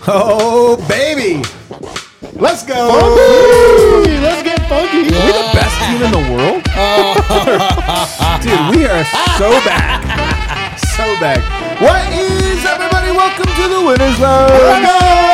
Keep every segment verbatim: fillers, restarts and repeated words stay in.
Oh, baby. Let's go. Funky. Let's get funky. Are we the best team in the world? Dude, we are so back. So back. What is, everybody? Welcome to the Winners Lounge.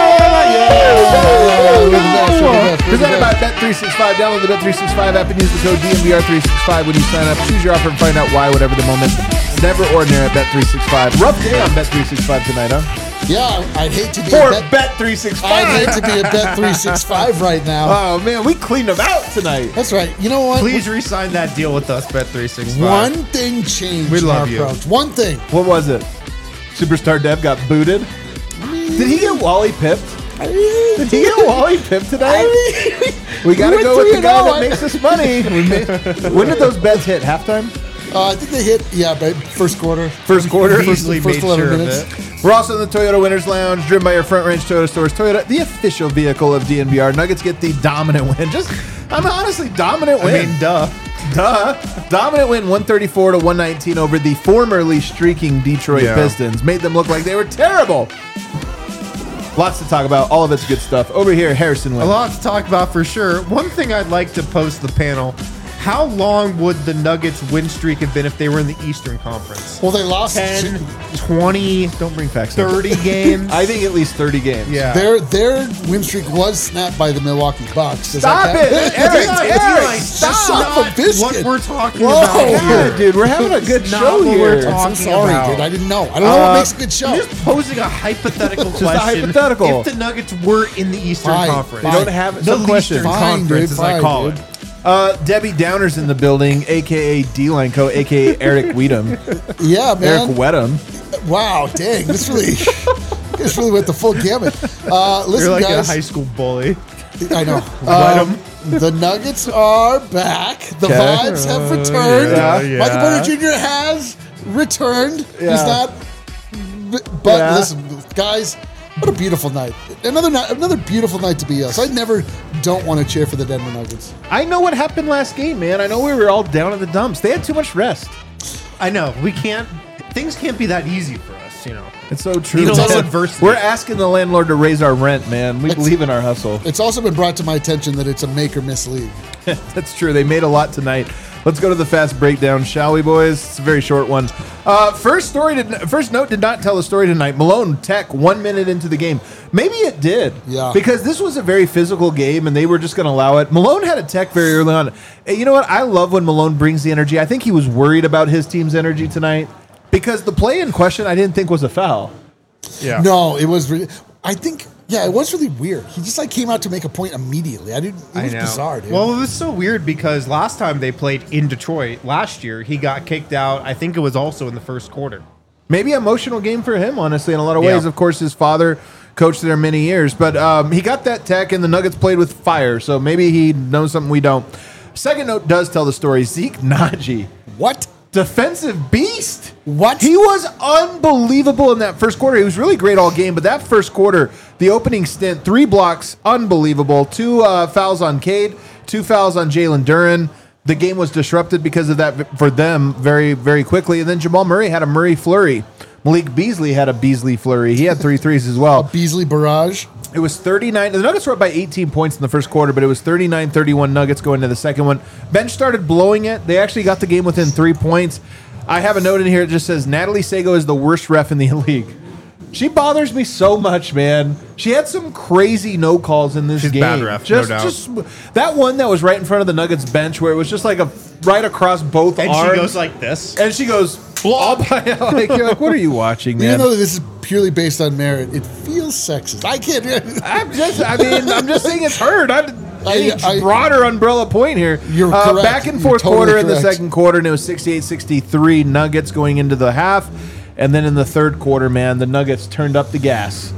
Presented by Bet three sixty-five. Download the Bet three sixty-five app and use the code D N V R three sixty-five when you sign up. Choose your offer and find out why, whatever the moment. It's never ordinary at Bet three sixty-five. Rough day on Bet three sixty-five tonight, huh? Yeah, I'd hate to be For a Bet, Bet three sixty-five. I'd hate to be a Bet three sixty-five right now. Oh, man, we cleaned them out tonight. That's right. You know what? Please re-sign that deal with us, Bet three sixty-five. One thing changed We in love our you. approach. One thing. What was it? Superstar Dev got booted? Did he get Wally pipped? I mean, Did he get Wally pipped today? I mean, We got to we go went with the three and guy oh. that makes us money. We made, when did those bets hit? Halftime? uh, I think they hit, yeah, but first quarter. First quarter? Beasley First made eleven sure minutes. of it. We're also in the Toyota Winners Lounge, driven by your Front Range Toyota stores. Toyota, the official vehicle of D N V R. Nuggets get the dominant win. Just, I'm honestly dominant I win. mean, duh. Duh. Dominant win one thirty-four to one nineteen over the formerly streaking Detroit Yeah. Pistons. Made them look like they were terrible. Lots to talk about. All of it's good stuff. Over here, Harrison A Wynn. lot to talk about for sure. One thing I'd like to pose to the panel: how long would the Nuggets' win streak have been if they were in the Eastern Conference? Well, they lost. ten, twenty, Don't bring facts. up. thirty games? I think at least thirty games. Yeah. Their their win streak was snapped by the Milwaukee Bucks. Does Stop that it, count? Eric, It's Eric, not- stop. it's son of a biscuit. what we're talking Whoa. about Yeah, here. dude, we're having a good It's not show what we're here. talking I'm sorry, about. dude. I didn't know. I don't know Uh, what makes a good show. You're just posing a hypothetical a question. hypothetical. If the Nuggets were in the Eastern Fine, Conference, fine. You don't have the some questions. Eastern Fine, Conference, dude, as I fine, call dude. it. Uh, Debbie Downer's in the building, a k a. D-Line Co., a k a. Eric Weedham. Yeah, man. Eric Wedham. Wow, dang. This really, this really went the full gamut. Uh, listen, You're like guys. a high school bully. I know. Let Um, the Nuggets are back. The Okay. vibes have returned. yeah, yeah. Michael Porter Junior has returned. Yeah. He's not. But Yeah. listen, guys, what a beautiful night. Another night, another beautiful night to be us. I never don't want to cheer for the Denver Nuggets. I know what happened last game, man. I know we were all down in the dumps. They had too much rest. I know. We can't. Things can't be that easy for us, you know. It's so true. Need a little man. adversity. We're asking the landlord to raise our rent, man. We It's- believe in our hustle. It's also been brought to my attention that it's a make or miss league. That's true. They made a lot tonight. Let's go to the fast breakdown, shall we, boys? It's a very short one. Uh, first story, did, first note did not tell the story tonight. Malone Tech, one minute into the game. Maybe it did. Yeah. Because this was a very physical game, and they were just going to allow it. Malone had a Tech very early on. Hey, you know what? I love when Malone brings the energy. I think he was worried about his team's energy tonight because the play in question I didn't think was a foul. Yeah. No, it was. Re- I think. Yeah, it was really weird. He just like came out to make a point immediately. I didn't. It was I know. bizarre, dude. Well, it was so weird because last time they played in Detroit last year, he got kicked out. I think it was also in the first quarter. Maybe emotional game for him, honestly, in a lot of ways. Yeah. Of course, his father coached there many years, but um, he got that Tech, and the Nuggets played with fire, so maybe he knows something we don't. Second note does tell the story. Zeke Naji, what? defensive beast. What? He was unbelievable in that first quarter. He was really great all game, but that first quarter, the opening stint, three blocks, unbelievable. Two uh, fouls on Cade, two fouls on Jalen Duren. The game was disrupted because of that for them very, very quickly. And then Jamal Murray had a Murray flurry. Malik Beasley had a Beasley flurry. He had three threes as well. Beasley barrage. It was thirty-nine. The Nuggets were up by eighteen points in the first quarter, but it was thirty-nine thirty-one Nuggets going to the second one. Bench started blowing it. They actually got the game within three points. I have a note in here that just says Natalie Sago is the worst ref in the league. She bothers me so much, man. She had some crazy no calls in this She's game. bad ref, no just, doubt. just that one that was right in front of the Nuggets bench, where it was just like a right across both And arms. she goes like this. and she goes all by like, you're like, what are you watching, man? Even though this is purely based on merit, it feels sexist. I can't. I'm just, I mean, I'm just saying it's heard. I, any I- I- broader umbrella point here. You're uh, correct. Back and You're forth totally quarter in the correct. second quarter, and it was sixty-eight sixty-three Nuggets going into the half. And then in the third quarter, man, the Nuggets turned up the gas.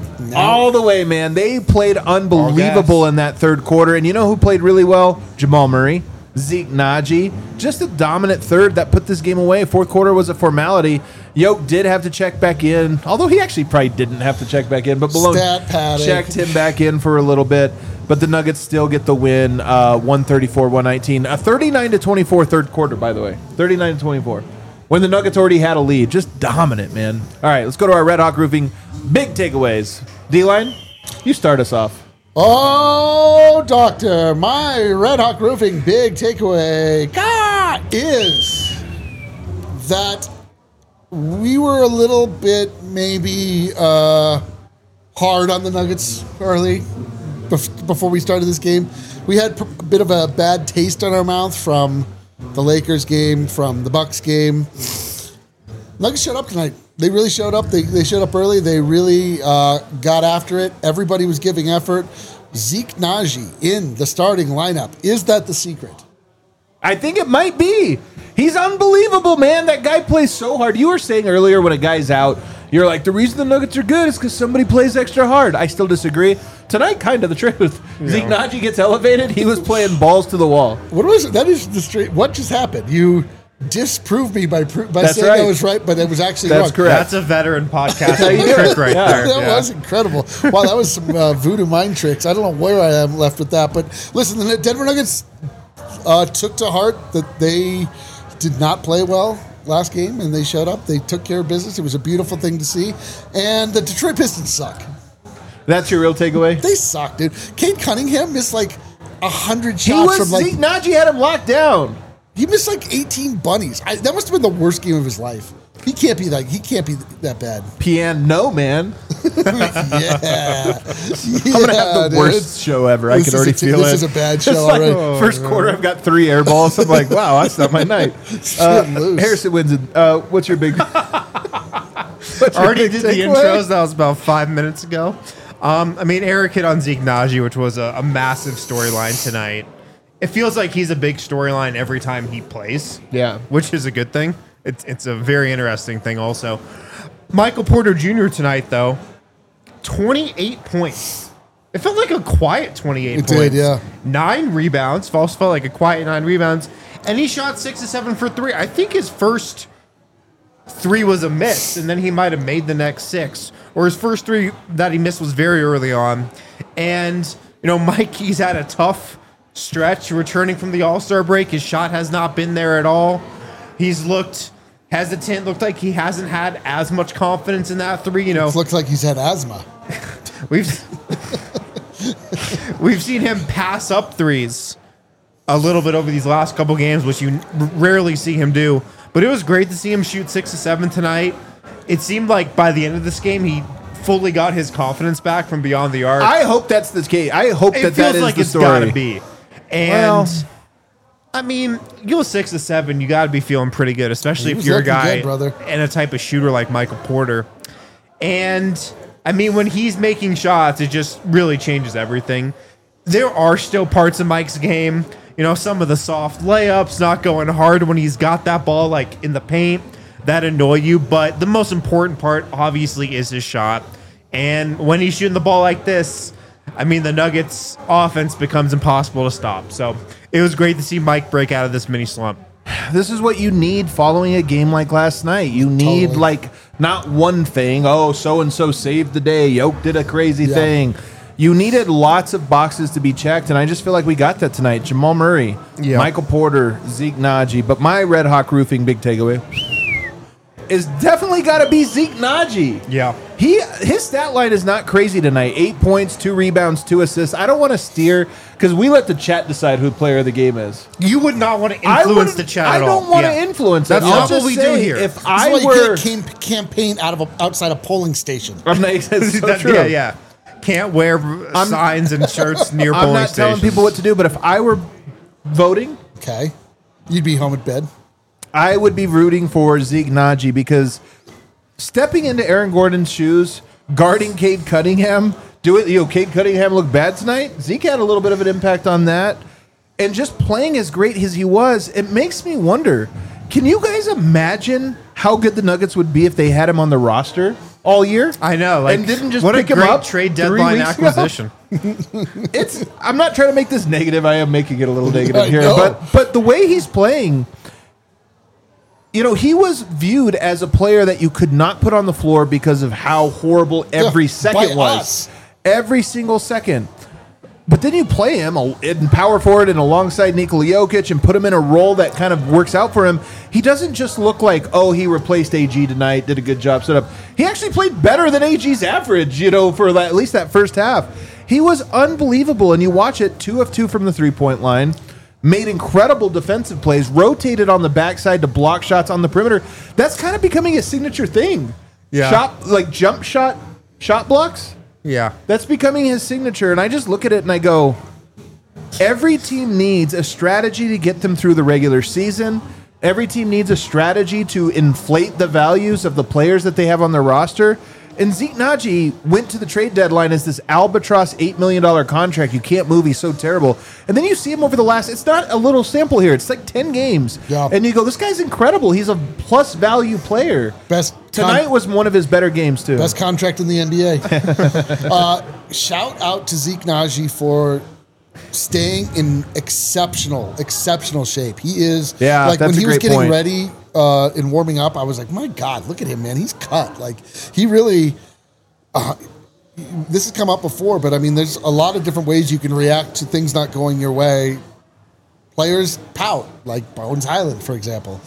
All the way, man. They played unbelievable gas. in that third quarter. And you know who played really well? Jamal Murray. Zeke Naji. Just a dominant third that put this game away. Fourth quarter was a formality. Yoke did have to check back in, although he actually probably didn't have to check back in, but Malone Stat padding. checked him back in for a little bit. But the Nuggets still get the win, uh, one thirty-four one nineteen. A thirty-nine to twenty-four third quarter, by the way. thirty-nine to twenty-four. when the Nuggets already had a lead. Just dominant, man. All right, let's go to our Red Hawk Roofing big takeaways. D-Line, you start us off. Oh, Doctor, my Red Hawk Roofing big takeaway God, is that we were a little bit maybe uh, hard on the Nuggets early bef- before we started this game. We had a bit of a bad taste on our mouth from the Lakers game, from the Bucks game. Nuggets showed up tonight. They really showed up. They, they showed up early. They really uh, got after it. Everybody was giving effort. Zeke Naji in the starting lineup. Is that the secret? I think it might be. He's unbelievable, man. That guy plays so hard. You were saying earlier when a guy's out, you're like, the reason the Nuggets are good is because somebody plays extra hard. I still disagree. Tonight, kind of the truth. Yeah. Zeke Naji gets elevated. He was playing balls to the wall. What was it? That is the straight. What just happened? You disproved me by by That's saying right. I was right, but it was actually That's wrong. correct. That's a veteran podcasting trick right Yeah. there. That Yeah. was incredible. Wow, that was some uh, voodoo mind tricks. I don't know where I am left with that, but listen, the Denver Nuggets uh, took to heart that they did not play well last game, and they showed up. They took care of business. It was a beautiful thing to see. And the Detroit Pistons suck. That's your real takeaway? They suck, dude. Cade Cunningham missed like a hundred He shots was, from like Zeke Naji had him locked down. he missed like eighteen bunnies. I, that must have been the worst game of his life. He can't be like he can't be that bad. Pian, no, man. yeah, I'm going to have the dude. worst show ever. I This can is already a t- feel this it. is a bad It's show like, already. First quarter, I've got three air balls. I'm like, wow, that's not my night. Uh, loose. Harrison wins it. Uh, what's your big... what's your Already big did the takeaway? intros. That was about five minutes ago. Um, I mean, Eric hit on Zeke Naji, which was a, a massive storyline tonight. It feels like he's a big storyline every time he plays. Yeah. Which is a good thing. It's it's a very interesting thing also. Michael Porter Junior tonight, though, twenty-eight points. It felt like a quiet twenty-eight It points. did, yeah. Nine rebounds. False felt like a quiet nine rebounds. And he shot six to seven for three. I think his first three was a miss, and then he might have made the next six. Or his first three that he missed was very early on. And, you know, Mike, he's had a tough stretch returning from the All-Star break. His shot has not been there at all. He's looked hesitant, looked like he hasn't had as much confidence in that three. You know, It looks like he's had asthma. we've we've seen him pass up threes a little bit over these last couple games, which you rarely see him do. But it was great to see him shoot six to seven tonight. It seemed like by the end of this game, he fully got his confidence back from beyond the arc. I hope that's the case. I hope it that feels that is like the it's story. got to be. And Well- I mean, you go six to seven, you got to be feeling pretty good, especially He if was you're a looking guy good, brother. and a type of shooter like Michael Porter. And I mean, when he's making shots, it just really changes everything. There are still parts of Mike's game, you know, some of the soft layups, not going hard when he's got that ball like in the paint, that annoy you. But the most important part, obviously, is his shot. And when he's shooting the ball like this, I mean, the Nuggets' offense becomes impossible to stop. So it was great to see Mike break out of this mini slump. This is what you need following a game like last night. You need Totally. like not one thing. Oh, so and so saved the day. Yoke did a crazy Yeah. thing. You needed lots of boxes to be checked, and I just feel like we got that tonight. Jamal Murray, Yeah. Michael Porter, Zeke Naji. But my Red Hawk Roofing big takeaway is definitely got to be Zeke Naji. Yeah. He his stat line is not crazy tonight. Eight points, two rebounds, two assists. I don't want to steer because we let the chat decide who player of the game is. You would not want to I influence wouldn't- the chat I at all. don't want to Yeah. influence. That's it. not I'll what just we do say, here. If That's I why you were, can't cam- campaign out of a, outside a polling station. I'm not, it's so That- true. Yeah, yeah. Can't wear signs and shirts near I'm polling not telling stations. people what to do, but if I were voting, Okay, you'd be home at bed. I would be rooting for Zeke Naji because stepping into Aaron Gordon's shoes, guarding Cade Cunningham, do it. You know, Cade Cunningham looked bad tonight. Zeke had a little bit of an impact on that, and just playing as great as he was, it makes me wonder: can you guys imagine how good the Nuggets would be if they had him on the roster all year? I know, like and didn't just what pick a him great up trade three deadline weeks ago? acquisition. It's. I'm not trying to make this negative. I am making it a little negative I here, know. but but the way he's playing, you know, he was viewed as a player that you could not put on the floor because of how horrible every Yeah, second by was. us. Every single second. But then you play him in power forward and alongside Nikola Jokic and put him in a role that kind of works out for him. He doesn't just look like, oh, he replaced A G tonight, did a good job set up. He actually played better than A G's average, you know, for that, at least that first half. He was unbelievable. And you watch it, two of two from the three-point line, made incredible defensive plays, rotated on the backside to block shots on the perimeter. That's kind of becoming a signature thing. Yeah. Shot, like jump shot, shot blocks. Yeah. That's becoming his signature, and I just look at it and I go, every team needs a strategy to get them through the regular season. Every team needs a strategy to inflate the values of the players that they have on their roster. And Zeke Naji went to the trade deadline as this albatross eight million dollars contract. You can't move. He's so terrible. And then you see him over the last, it's not a little sample here. It's like ten games. Yeah. And you go, this guy's incredible. He's a plus value player. Best Tonight con- was one of his better games, too. Best contract in the N B A. uh, shout out to Zeke Naji for staying in exceptional, exceptional shape. He is, Yeah, like that's when a he was great getting point. ready uh, and warming up, I was like, my God, look at him, man. He's cut. Like, he really, uh, this has come up before, but I mean, there's a lot of different ways you can react to things not going your way. Players pout, like Bones Highland, for example.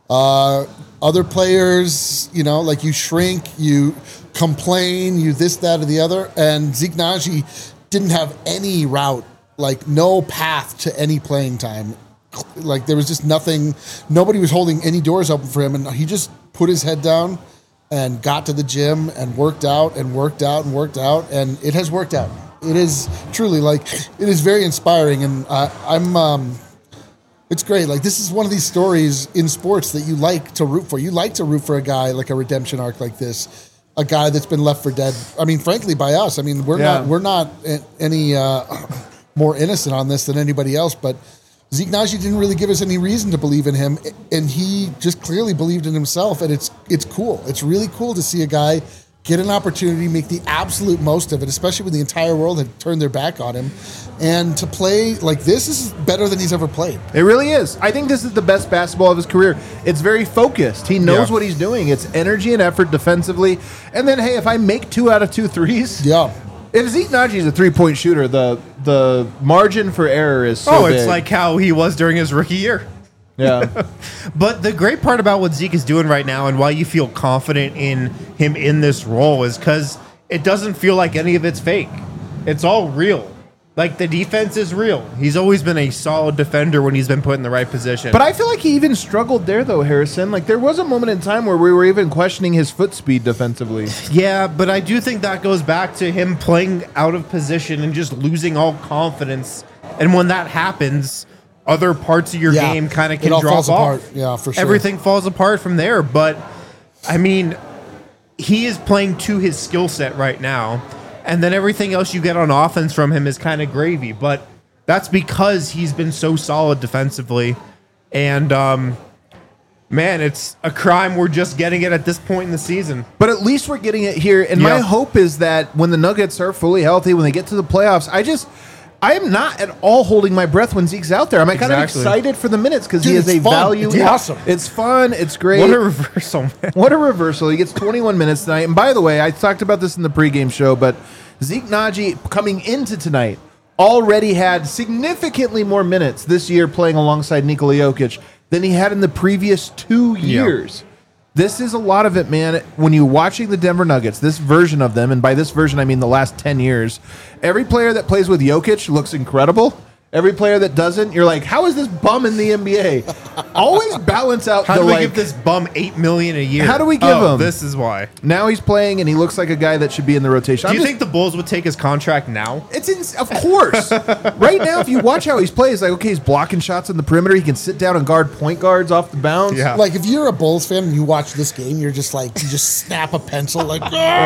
Uh, other players, you know, like you shrink, you complain, you this, that, or the other. And Zeke Naji didn't have any route, like no path to any playing time. Like there was just nothing, nobody was holding any doors open for him. And he just put his head down and got to the gym and worked out and worked out and worked out. And it has worked out. It is truly like, it is very inspiring. And uh, I'm, um, it's great. Like this is one of these stories in sports that you like to root for. You like to root for a guy like a redemption arc like this, a guy that's been left for dead. I mean, frankly, by us. I mean, we're Yeah. not we're not any uh, more innocent on this than anybody else. But Zeke Naji didn't really give us any reason to believe in him, and he just clearly believed in himself. And it's it's cool. It's really cool to see a guy get an opportunity, make the absolute most of it, especially when the entire world had turned their back on him. And to play like this is better than he's ever played. It really is. I think this is the best basketball of his career. It's very focused. He knows Yeah. what he's doing. It's energy and effort defensively. And then, hey, if I make two out of two threes, Yeah. if Zeke Naji is a three-point shooter, the the margin for error is so Oh, big. it's like how he was during his rookie year. yeah. But the great part about what Zeke is doing right now and why you feel confident in him in this role is because it doesn't feel like any of it's fake. It's all real. Like the defense is real. He's always been a solid defender when he's been put in the right position. But I feel like he even struggled there, though, Harrison. Like, there was a moment in time where we were even questioning his foot speed defensively. Yeah, but I do think that goes back to him playing out of position and just losing all confidence. And when that happens, other parts of your Yeah. game kind of It can all drop falls off. apart. Yeah, for sure. Everything falls apart from there. But, I mean, he is playing to his skill set right now. And then everything else you get on offense from him is kind of gravy. But that's because he's been so solid defensively. And, um, man, it's a crime we're just getting it at this point in the season. But at least we're getting it here. And my Yeah. hope is that when the Nuggets are fully healthy, when they get to the playoffs, I just... I am not at all holding my breath when Zeke's out there. I'm kind of Exactly. excited for the minutes because he Dude, is a it's fun. value. It's awesome. It's fun. It's great. What a reversal, man. What a reversal. He gets twenty-one minutes tonight. And by the way, I talked about this in the pregame show, but Zeke Naji coming into tonight already had significantly more minutes this year playing alongside Nikola Jokic than he had in the previous two years. This is a lot of it, man. When you're watching the Denver Nuggets, this version of them, and by this version I mean the last ten years, every player that plays with Jokic looks incredible. Every player that doesn't, you're like, how is this bum in the N B A? Always balance out How the do we like, give this bum eight million a year? How do we give oh, him? This is why. now he's playing and he looks like a guy that should be in the rotation. Do I'm you just- think the Bulls would take his contract now? It's in, of course. Right now, if you watch how he's playing, it's like, okay, he's blocking shots on the perimeter. He can sit down and guard point guards off the bounce. Yeah. Like if you're a Bulls fan and you watch this game, you're just like you just snap a pencil like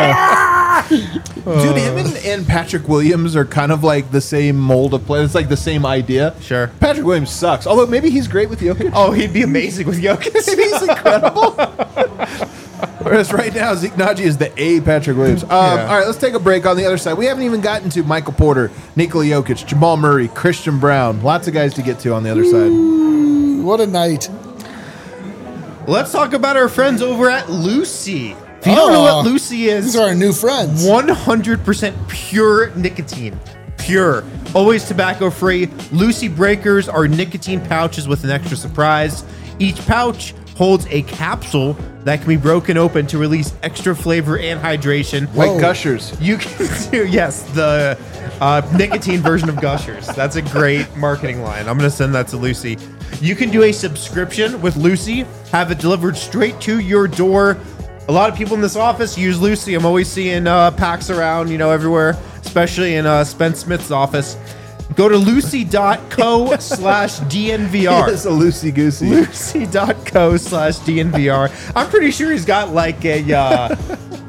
Dude, him and, and Patrick Williams are kind of like the same mold of play. It's like the same idea. Sure. Patrick Williams sucks. Although maybe he's great with Jokic. Oh, he'd be amazing with Jokic. Maybe he's incredible. Whereas right now, Zeke Naji is the A Patrick Williams. Um, Yeah. All right, let's take a break on the other side. We haven't even gotten to Michael Porter, Nikola Jokic, Jamal Murray, Christian Brown. Lots of guys to get to on the other side. what a night. Let's talk about our friends over at Lucy. If you don't know Oh, what Lucy is, These are our new friends. one hundred percent pure nicotine. pure, always tobacco-free. Lucy Breakers are nicotine pouches with an extra surprise. Each pouch holds a capsule that can be broken open to release extra flavor and hydration. Like Whoa. Gushers. You can do, yes, the uh, nicotine version of Gushers. That's a great marketing line. I'm going to send that to Lucy. You can do a subscription with Lucy, have it delivered straight to your door. A lot of people in this office use Lucy. I'm always seeing uh, packs around, you know, everywhere, especially in uh, Spence Smith's office. Go to lucy.co slash DNVR. It's a loosey goosey. Lucy.co slash DNVR. I'm pretty sure he's got like a uh,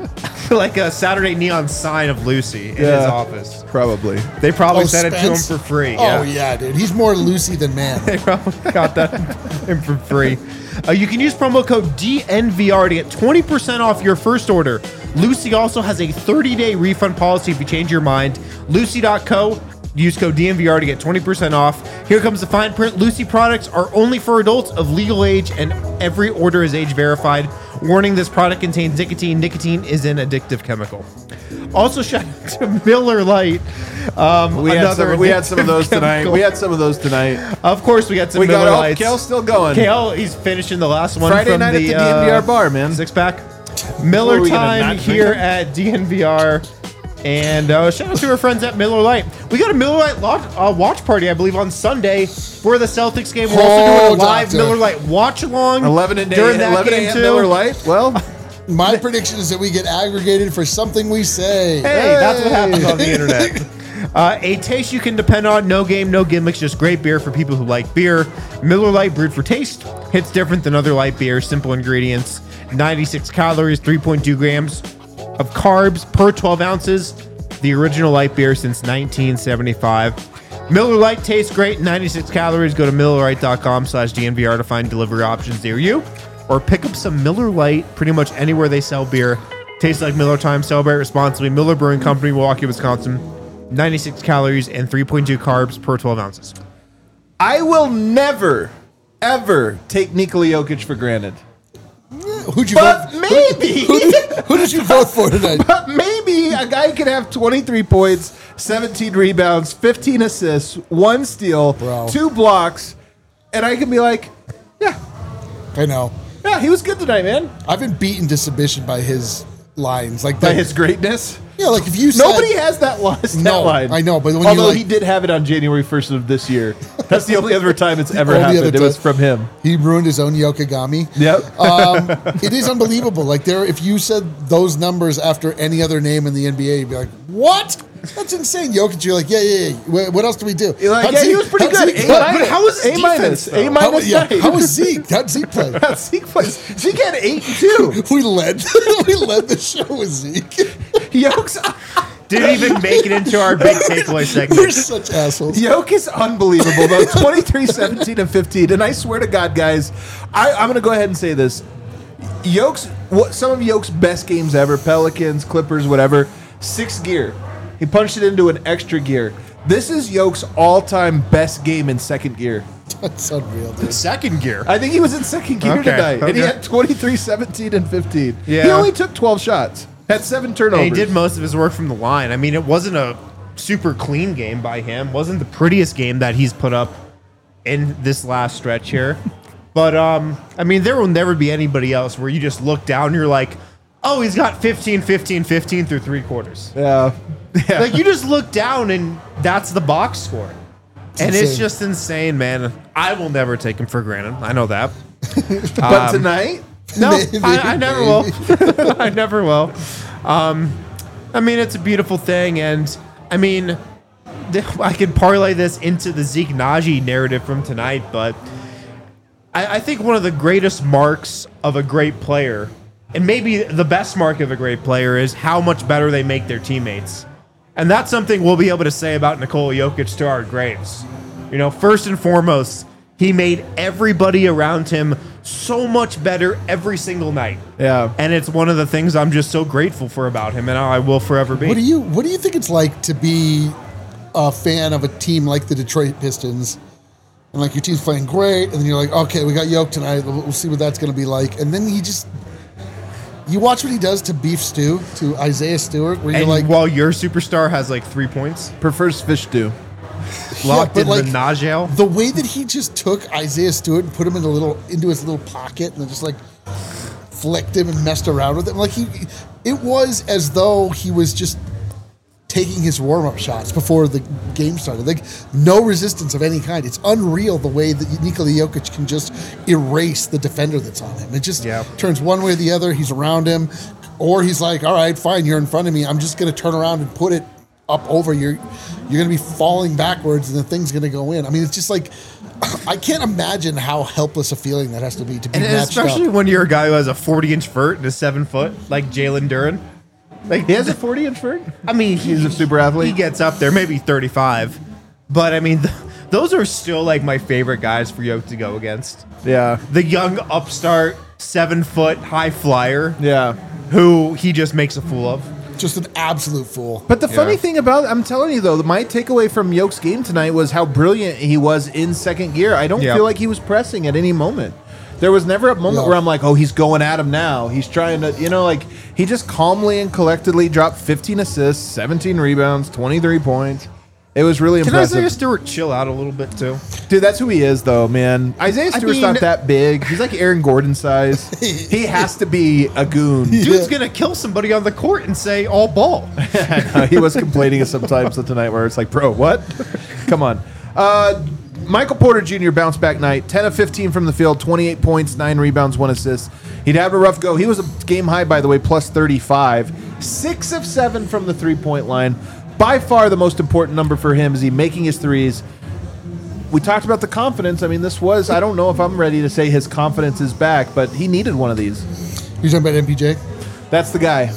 like a Saturday neon sign of Lucy in his Yeah. office. Probably. They probably Oh, sent it to him Spence? for free. Oh, yeah, dude. He's more Lucy than man. They probably got that in for free. Uh, you can use promo code D N V R to get twenty percent off your first order. Lucy also has a thirty-day refund policy if you change your mind. Lucy dot co. Use code D N V R to get twenty percent off. Here comes the fine print. Lucy products are only for adults of legal age, and every order is age verified. Warning, this product contains nicotine. Nicotine is an addictive chemical. Also, shout out to Miller Lite. Um, We had, another some, we had some of addictive those tonight. chemical. We had some of those tonight. Of course, we got some We Miller got oh, Lights. Kale's still going. Kale, he's finishing the last one Friday from night the, at the D N V R uh, bar, man. Six pack. What, Miller are we gonna time not drink here them? at D N V R. And uh, shout out to our friends at Miller Lite. We got a Miller Lite lot, uh, watch party, I believe, on Sunday for the Celtics game. We're also Oh, doing a live doctor. Miller Lite watch along. eleven and during that eleven game a.m. too. Miller Lite. Well, My prediction is that we get aggregated for something we say. Hey, that's what happens on the internet. Uh, a taste you can depend on. No game, no gimmicks, just great beer for people who like beer. Miller Lite brewed for taste. Hits different than other light beers. Simple ingredients. ninety-six calories, three point two grams of carbs per twelve ounces. The original light beer since nineteen seventy-five. Miller Lite tastes great. ninety-six calories. Go to millerlite.com slash DNVR to find delivery options near you. Or pick up some Miller Lite pretty much anywhere they sell beer. Tastes like Miller time. Celebrate responsibly. Miller Brewing Company, Milwaukee, Wisconsin. ninety-six calories and three point two carbs per twelve ounces. I will never, ever take Nikola Jokic for granted. Who'd you But vote? maybe, Who, who did you vote for tonight? but maybe a guy could have twenty-three points, seventeen rebounds, fifteen assists, one steal, Bro. two blocks, and I can be like, yeah, I know. yeah, he was good tonight, man. I've been beaten to submission by his lines. Like By the, his greatness. yeah, like if you said, Nobody has that line. That No, line. I know, but when you, although like- he did have it on January first of this year, that's the only other time it's ever only happened. other It was time. from him. he ruined his own Yokogami. Yep. Um, it is unbelievable. Like there, if you said those numbers after any other name in the N B A, you'd be like, "What? That's insane." Jokic, you're like, "Yeah, yeah, yeah. What, what else do we do?" You're like, How'd yeah, Zeke- he was pretty how'd good. Zeke A play? minus. But how was his A minus? defense, though? A How, minus. yeah, nine. how was Zeke? How'd Zeke play? Zeke plays. Zeke had eight and two. We led. we led the show with Zeke. Yoke's Didn't even make it into our big takeaway We're segment. such assholes. Yoke is unbelievable though. twenty-three, seventeen, and fifteen. And I swear to God, guys, I, I'm gonna go ahead and say this. Yoke's what some of Yoke's best games ever, Pelicans, Clippers, whatever, sixth gear. He punched it into an extra gear. This is Yoke's all-time best game in second gear. That's unreal, dude. Second gear. I think he was in second gear Okay, tonight. And he okay. had twenty-three, seventeen, and fifteen. Yeah. He only took twelve shots. Had seven turnovers. And he did most of his work from the line. I mean, it wasn't a super clean game by him. Wasn't the prettiest game that he's put up in this last stretch here. But um, I mean, there will never be anybody else where you just look down and you're like, oh, he's got fifteen, fifteen, fifteen through three quarters. Yeah. yeah. Like you just look down and that's the box score. And it's insane. just insane, man. I will never take him for granted. I know that. but um, tonight, No, Maybe, I, I never will. I never will. Um, I mean, it's a beautiful thing, and I mean, th- I could parlay this into the Zeke Naji narrative from tonight, but I, I think one of the greatest marks of a great player, and maybe the best mark of a great player, is how much better they make their teammates. And that's something we'll be able to say about Nikola Jokic to our graves. You know, first and foremost, he made everybody around him so much better every single night. Yeah. And it's one of the things I'm just so grateful for about him, and I will forever be. What do you What do you think it's like to be a fan of a team like the Detroit Pistons, and like your team's playing great, and then you're like, okay, we got Yoke tonight. We'll we'll see what that's going to be like, and then he just You watch what he does to Beef Stew, to Isaiah Stewart, where you're And like, while your superstar has like three points, Prefers fish stew. locked but in like- the Najel. the way that he just took Isaiah Stewart and put him in a little into his little pocket and then just like flicked him and messed around with him. Like he, it was as though he was just taking his warm up shots before the game started. Like no resistance of any kind. It's unreal the way that Nikola Jokic can just erase the defender that's on him. It just Yeah. turns one way or the other. He's around him, or he's like, "All right, fine, you're in front of me. I'm just going to turn around and put it up over your." You're going to be falling backwards, and the thing's going to go in. I mean, it's just like I can't imagine how helpless a feeling that has to be to be And matched especially up. when you're a guy who has a forty inch vert and a seven foot, like Jalen Duren. Like He has a forty inch vert? I mean, he, He's a super athlete? He gets up there, maybe thirty-five. But I mean, th- those are still like my favorite guys for Yoke to go against. Yeah. The young upstart, seven foot high flyer, Yeah. who he just makes a fool of. Just an absolute fool. But the funny Yeah. thing about I'm telling you though, my takeaway from Yoke's game tonight was how brilliant he was in second gear. I don't Yeah. feel like he was pressing at any moment. There was never a moment Yeah. where I'm like, oh, he's going at him now. He's trying to, you know, like he just calmly and collectedly dropped fifteen assists, seventeen rebounds, twenty-three points. It was really Can impressive. Isaiah Stewart chill out a little bit too? Dude, that's who he is, though, man. Isaiah I Stewart's mean- not that big. He's like Aaron Gordon size. He has to be a goon. Dude's gonna kill somebody on the court and say all ball. He was complaining sometimes tonight where it's like, bro, what? Come on. Uh, Michael Porter Junior bounced back night, ten of fifteen from the field, twenty-eight points, nine rebounds, one assist. He'd have a rough go. He was a game high, by the way, plus thirty-five. Six of seven from the three-point line. By far the most important number for him is he making his threes. We talked about the confidence. I mean, this was, I don't know if I'm ready to say his confidence is back, but he needed one of these. You're talking about M P J? That's the guy.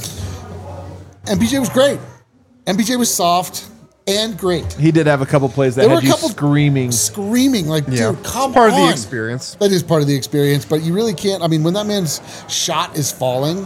M P J was great. M P J was soft and great. He did have a couple plays that There were had a you couple screaming. Screaming like, Yeah. dude, come Part on. of the experience. That is part of the experience, but you really can't. I mean, when that man's shot is falling,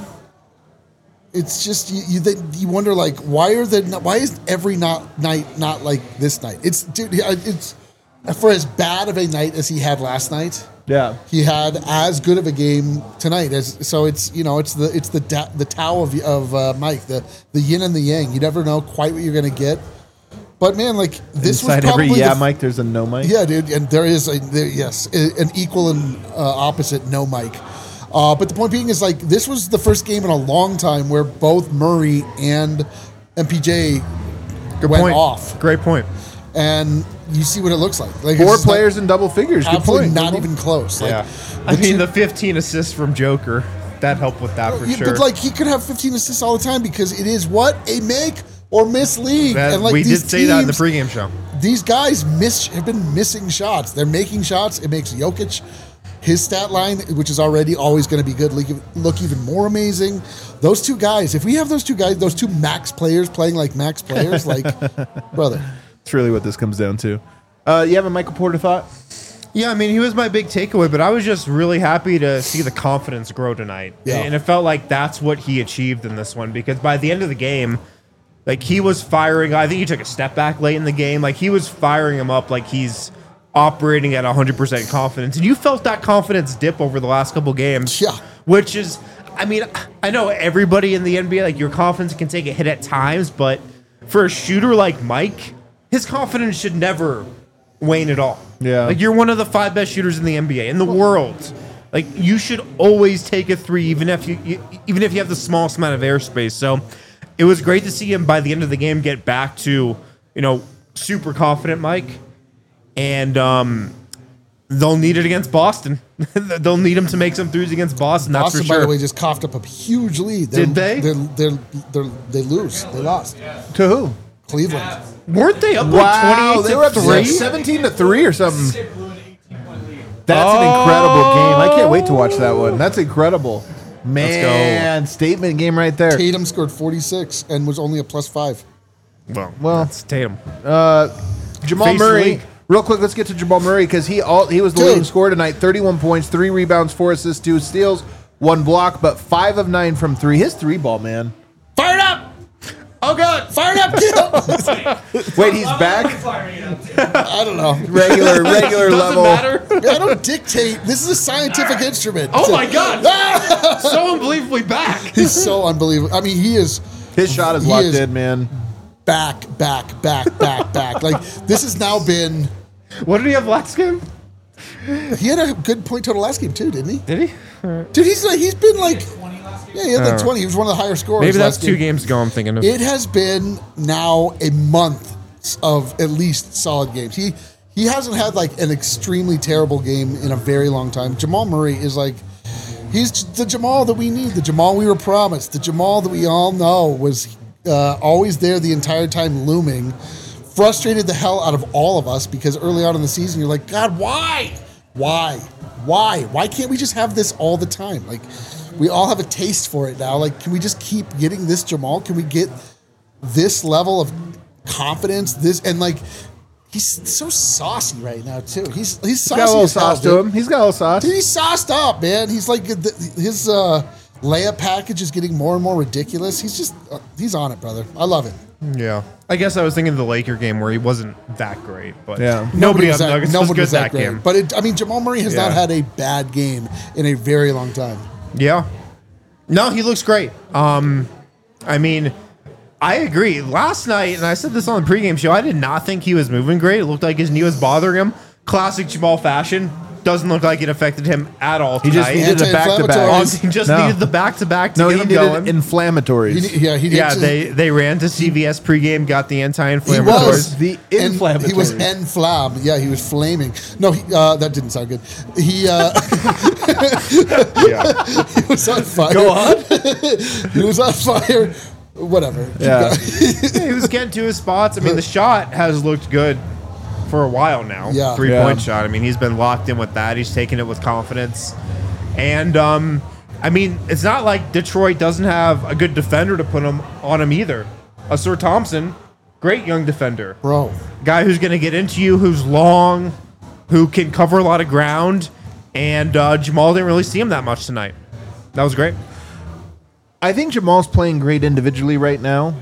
it's just you. You, they, you wonder like, why are the why is every not, night not like this night? It's dude. It's for as bad of a night as he had last night. Yeah. He had as good of a game tonight as so. It's you know it's the it's the da, the Tao of of uh, Mike, the the yin and the yang. You never know quite what you're gonna get. But man, like this Inside was probably every yeah, the, Mike, there's a no Mike. yeah, dude, and there is a there, yes, a- an equal and uh, opposite no Mike. Uh, but the point being is like this was the first game in a long time where both Murray and M P J Good went point. off, Great point. and you see what it looks like. Like Four it's just not- players in double figures. Good absolutely point. not even close. Like, Yeah. I the mean, two- the fifteen assists from Joker, that helped with that for Yeah, sure. But like he could have fifteen assists all the time because it is what a make or miss league. That- and like we these did say that in the teams- pregame show. These guys miss have been missing shots. They're making shots. It makes Jokic, his stat line, which is already always going to be good, look, look even more amazing. Those two guys, if we have those two guys, those two max players playing like max players, like brother. That's really what this comes down to. Uh, you have a Michael Porter thought? Yeah, I mean, he was my big takeaway, but I was just really happy to see the confidence grow tonight. Yeah. And it felt like that's what he achieved in this one because by the end of the game, like he was firing. I think he took a step back late in the game. Like he was firing him up like he's operating at one hundred percent confidence. And you felt that confidence dip over the last couple games. Yeah. Which is, I mean, I know everybody in the N B A, like your confidence can take a hit at times, but for a shooter like Mike, his confidence should never wane at all. Yeah. Like you're one of the five best shooters in the N B A, in the world. Like you should always take a three, even if you, you even if you have the smallest amount of airspace. So it was great to see him by the end of the game get back to, you know, super confident Mike. And um, they'll need it against Boston. They'll need him to make some threes against Boston. That's Boston, for by sure. the way, just coughed up a huge lead. They're, Did they? They're, they're, they're, they lose. They lost. To who? Cleveland. Weren't they up Wow, like twenty-eight they were up to to three? seventeen to three or something. They blew an eighteen-point lead. That's Oh. an incredible game. I can't wait to watch that one. That's incredible. Man, statement game right there. Tatum scored forty-six and was only a plus five. Well, Well, that's Tatum. Jamal Face Murray. league. Real quick, let's get to Jamal Murray because he all he was the Dude. leading scorer tonight. thirty-one points, three rebounds, four assists, two steals, one block, but five of nine from three. His three ball, man. Fired up! Oh god, fired up! Kill! Wait, he's Level back. are we firing it up to? I don't know. Regular, regular Doesn't level. matter. I don't dictate. This is a scientific instrument. Oh my God! So unbelievably back. He's so unbelievable. I mean, he is His shot is He locked is- in, man. back, back, back, back, back. Like, this has now been. What did he have last game? He had a good point total last game, too, didn't he? Did he? Dude, he's like, he's been like. Yeah, he had like Oh. twenty. He was one of the higher scorers. Maybe that's last two game. games ago. I'm thinking of. It has been now a month of at least solid games. He he hasn't had like an extremely terrible game in a very long time. Jamal Murray is like he's the Jamal that we need, the Jamal we were promised, the Jamal that we all know was uh, always there the entire time looming. Frustrated the hell out of all of us because early on in the season you're like, God, why? Why? Why? Why can't we just have this all the time? Like we all have a taste for it now. Like, can we just keep getting this Jamal? Can we get this level of confidence? This and like, he's so saucy right now too. He's he's saucy. He's got a little as hell, sauce to dude. him. He's got a little sauce. Dude, he's sauced up, man. He's like the, his uh, layup package is getting more and more ridiculous. He's just uh, he's on it, brother. I love it. Yeah. I guess I was thinking of the Laker game where he wasn't that great, but Yeah. nobody on was the that, Nuggets was nobody good was that, great. game. But it, I mean, Jamal Murray has Yeah. not had a bad game in a very long time. Yeah. No, he looks great. Um, I mean, I agree. Last night, and I said this on the pregame show, I did not think he was moving great. It looked like his knee was bothering him. Classic Jamal fashion. Doesn't look like it affected him at all He just tonight. needed a back to back. Anti-inflammatories. He just No. needed the back to back to No, get he him needed going. inflammatories. He, ne- yeah, he did yeah, just- they they ran to C V S pregame, got the He anti-inflammatories. was The And inflammatories. He was enflam. Yeah, he was flaming. No, he, uh, that didn't sound good. He uh, Yeah. he was on fire. Go on. He was on fire. Whatever. Keep Yeah. going. Yeah, he was getting to his spots. I mean, the shot has looked good for a while now. Yeah. Three point Yeah. shot. I mean, he's been locked in with that. He's taking it with confidence. And, um, I mean, it's not like Detroit doesn't have a good defender to put him on him either. A Sir Thompson, great young defender. Bro. Guy who's going to get into you, who's long, who can cover a lot of ground. And uh, Jamal didn't really see him that much tonight. That was great. I think Jamal's playing great individually right now.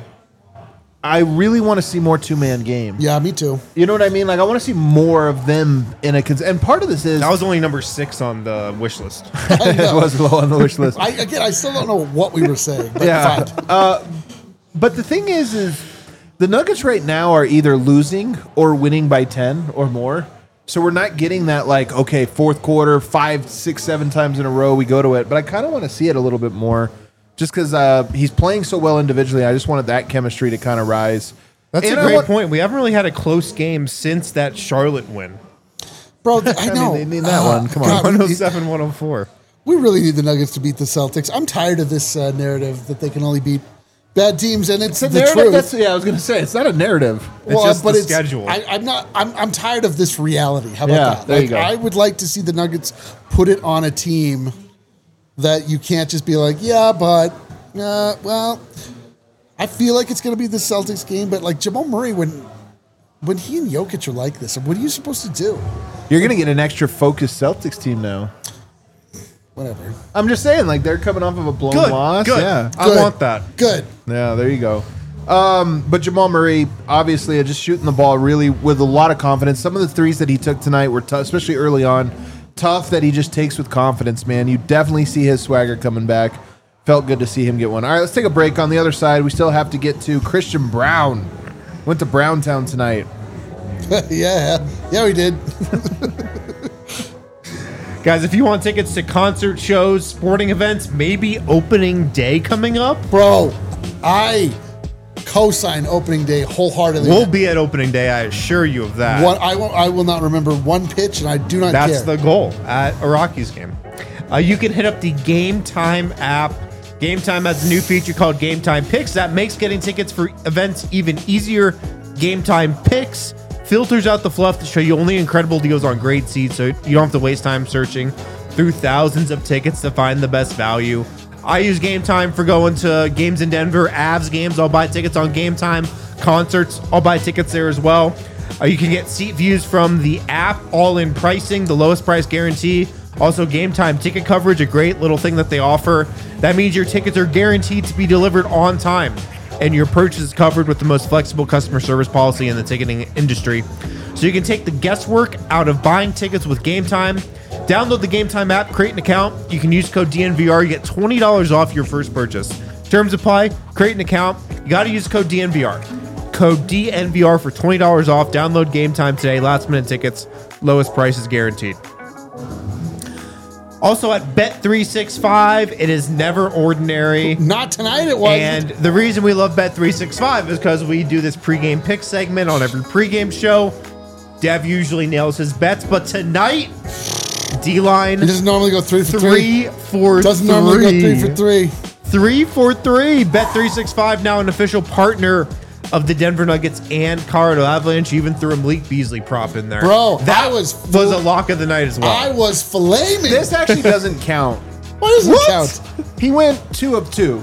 I really want to see more two-man game. Yeah, me too. You know what I mean? Like, I want to see more of them in a... Cons- and part of this is... That was only number six on the wish list. I know. it was low on the wish list. I, again, I still don't know what we were saying. But Yeah. fine. Uh, but the thing is, is the Nuggets right now are either losing or winning by ten or more. So we're not getting that, like, okay, fourth quarter, five, six, seven times in a row, we go to it. But I kind of want to see it a little bit more just because uh, he's playing so well individually. I just wanted that chemistry to kind of rise. That's And a I great want- point. We haven't really had a close game since that Charlotte win. Bro, th- I I know. mean, they need that one. Come on. God, one oh we, seven, one oh four. we really need the Nuggets to beat the Celtics. I'm tired of this uh, narrative that they can only beat bad teams, and it's, It's a the narrative. truth. That's, yeah, I was going to say, it's not a narrative. It's just the schedule. I, I'm not. I'm, I'm tired of this reality. How about Yeah, that? there Like, you go. I would like to see the Nuggets put it on a team that you can't just be like, yeah, but uh, well, I feel like it's going to be the Celtics game, but like Jamal Murray, when when he and Jokic are like this, what are you supposed to do? You're going to get an extra focused Celtics team now. Whatever. I'm just saying, like, they're coming off of a blown Good. loss. Good. Yeah. I Good. want that. Good. Yeah, there you go. Um, but Jamal Murray, obviously, uh, just shooting the ball really with a lot of confidence. Some of the threes that he took tonight were tough, especially early on. Tough that he just takes with confidence, man. You definitely see his swagger coming back. Felt good to see him get one. All right, let's take a break. On the other side, we still have to get to Christian Brown. Went to Browntown tonight. yeah. Yeah, we did. Guys, if you want tickets to concert shows, sporting events, maybe opening day coming up, Bro, I co-sign opening day wholeheartedly. we'll be at opening day. I assure you of that. One, I, won't, I will not remember one pitch, and I do not That's care. the goal at a Rockies game. Uh, you can hit up the Game Time app. Game Time has a new feature called Game Time Picks that makes getting tickets for events even easier. Game Time Picks filters out the fluff to show you only incredible deals on great seats, so you don't have to waste time searching through thousands of tickets to find the best value. I use Game Time for going to games in Denver, Avs games. I'll buy tickets on Game Time. Concerts, I'll buy tickets there as well. Uh, you can get seat views from the app, all-in pricing, the lowest price guarantee. Also, Game Time ticket coverage, a great little thing that they offer. That means your tickets are guaranteed to be delivered on time, and your purchase is covered with the most flexible customer service policy in the ticketing industry. so you can take the guesswork out of buying tickets with Game Time. Download the Game Time app, create an account. You can use code D N V R. You get twenty dollars off your first purchase. Terms apply. Create an account. You got to use code D N V R. Code D N V R for twenty dollars off. Download Game Time today. Last minute tickets. Lowest prices guaranteed. Also at Bet three sixty-five, it is never ordinary. Not tonight it wasn't. And the reason we love Bet three sixty-five is because we do this pregame pick segment on every pregame show. Dev usually nails his bets, but tonight, D-line. He doesn't normally go three for three. Three for doesn't three. normally go three for three. Three for three. Bet three sixty-five, now an official partner of the Denver Nuggets and Colorado Avalanche. Even threw a Malik Beasley prop in there. Bro, that I was was a lock of the night as well. I was flaming. This actually doesn't count. Why does it What? count? He went two of two.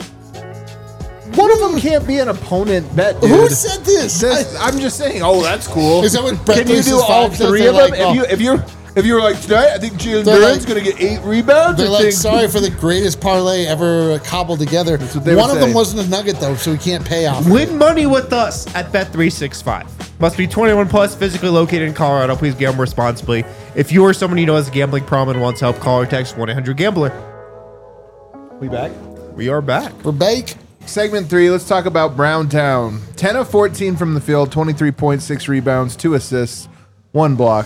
One of them can't be an opponent bet, dude. Who said this? This- I- I'm just saying. Oh, that's cool. Is that what Bet Can you do three all sixty-five says? three They're of them? like, if oh. you if you if you were like tonight, I think Jalen They're Duren's like- going to get eight rebounds. They're I like, think- sorry for the greatest parlay ever cobbled together. what they One would of them say. wasn't a nugget, though, so we can't pay off. Win money with us at Bet three sixty-five. Must be twenty-one plus, physically located in Colorado. Please gamble responsibly. If you or someone you know has a gambling problem and wants help, call or text one eight hundred gambler. We back? We are back. For Bake, Segment three, let's talk about Browntown. ten of fourteen from the field, twenty-three point six rebounds, two assists, one block.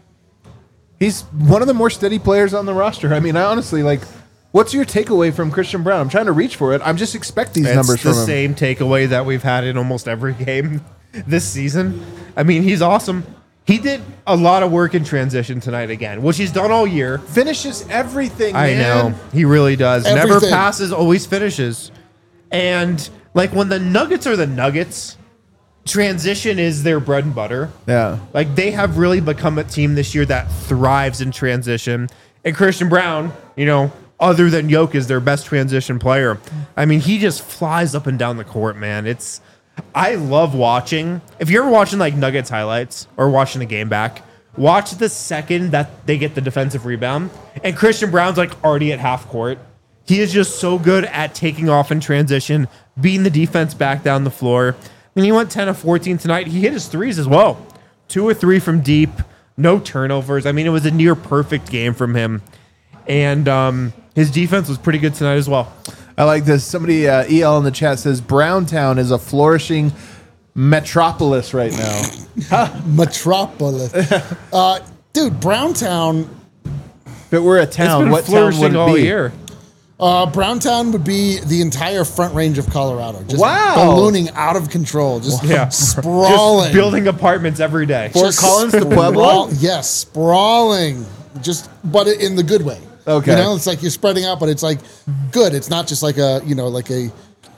He's one of the more steady players on the roster. I mean, I honestly, like, what's your takeaway from Christian Brown? I'm trying to reach for it. I'm just expect these It's numbers the from him. same takeaway that we've had in almost every game this season. I mean, he's awesome. He did a lot of work in transition tonight again, which he's done all year. Finishes everything, I man. know. He really does. Never Everything. passes, always finishes. And like when the Nuggets are the Nuggets, transition is their bread and butter. Yeah. Like they have really become a team this year that thrives in transition. And Christian Brown, you know, other than Jokic, is their best transition player. I mean, he just flies up and down the court, man. It's I love watching. If you're ever watching like Nuggets highlights or watching the game back, watch the second that they get the defensive rebound and Christian Brown's like already at half court. He is just so good at taking off in transition, beating the defense back down the floor. I mean, he went ten of fourteen tonight. He hit his threes as well. Two or three from deep, no turnovers. I mean, it was a near perfect game from him. And um, his defense was pretty good tonight as well. I like this. Somebody, uh, E L in the chat says, Browntown is a flourishing metropolis right now. Metropolis. uh, dude, Browntown. If it were a It's town, been what town flourishing would it all be? year. Uh, Browntown would be the entire front range of Colorado. Just Wow. ballooning out of control. Just Yeah. sprawling. Just building apartments every day. Fort Just Collins to Pueblo? sprawl- Yes, sprawling. Just, but in the good way. Okay. You know, it's like you're spreading out, but it's like good. It's not just like a, you know, like a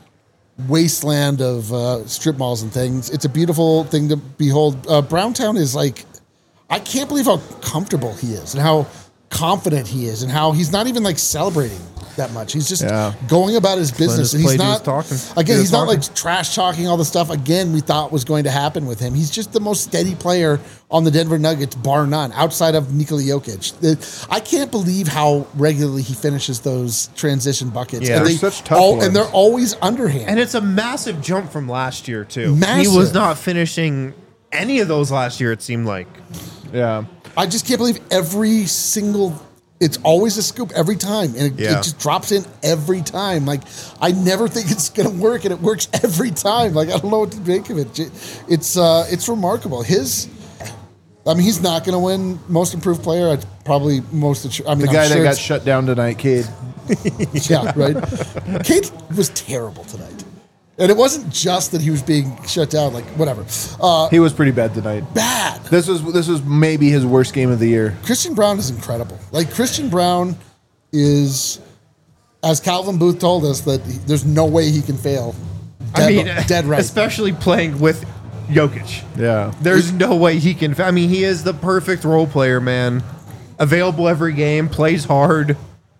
wasteland of uh, strip malls and things. It's a beautiful thing to behold. Uh, Browntown is like, I can't believe how comfortable he is and how confident he is and how he's not even like celebrating that much. He's just Yeah. going about his business. his And he's play, do his not talking. again. Do his He's not talking. like trash talking all the stuff again we thought was going to happen with him. He's just the most steady player on the Denver Nuggets, bar none, outside of Nikola Jokic. The- I can't believe how regularly he finishes those transition buckets. Yeah. and They're they such tough all, ones. and they're always underhand. And it's a massive jump from last year, too. Massive. He was not finishing any of those last year, it seemed like. Yeah. I just can't believe every single. It's always a scoop every time, and it, Yeah. it just drops in every time. Like I never think it's gonna work, and it works every time. Like I don't know what to make of it. J- It's uh, it's remarkable. His, I mean, he's not gonna win Most Improved Player. It's probably most. Of, I mean, The I'm guy sure that got it's- shut down tonight, Cade. yeah, right. Kate was terrible tonight, and it wasn't just that he was being shut down. Like whatever, uh, He was pretty bad tonight. bad. This was this was maybe his worst game of the year. Christian Brown is incredible. Like Christian Brown is, as Calvin Booth told us, that he, there's no way he can fail. Dead, I mean, dead right. especially playing with Jokic. Yeah. There's no way he can. I mean, he is the perfect role player, man. Available every game, plays hard,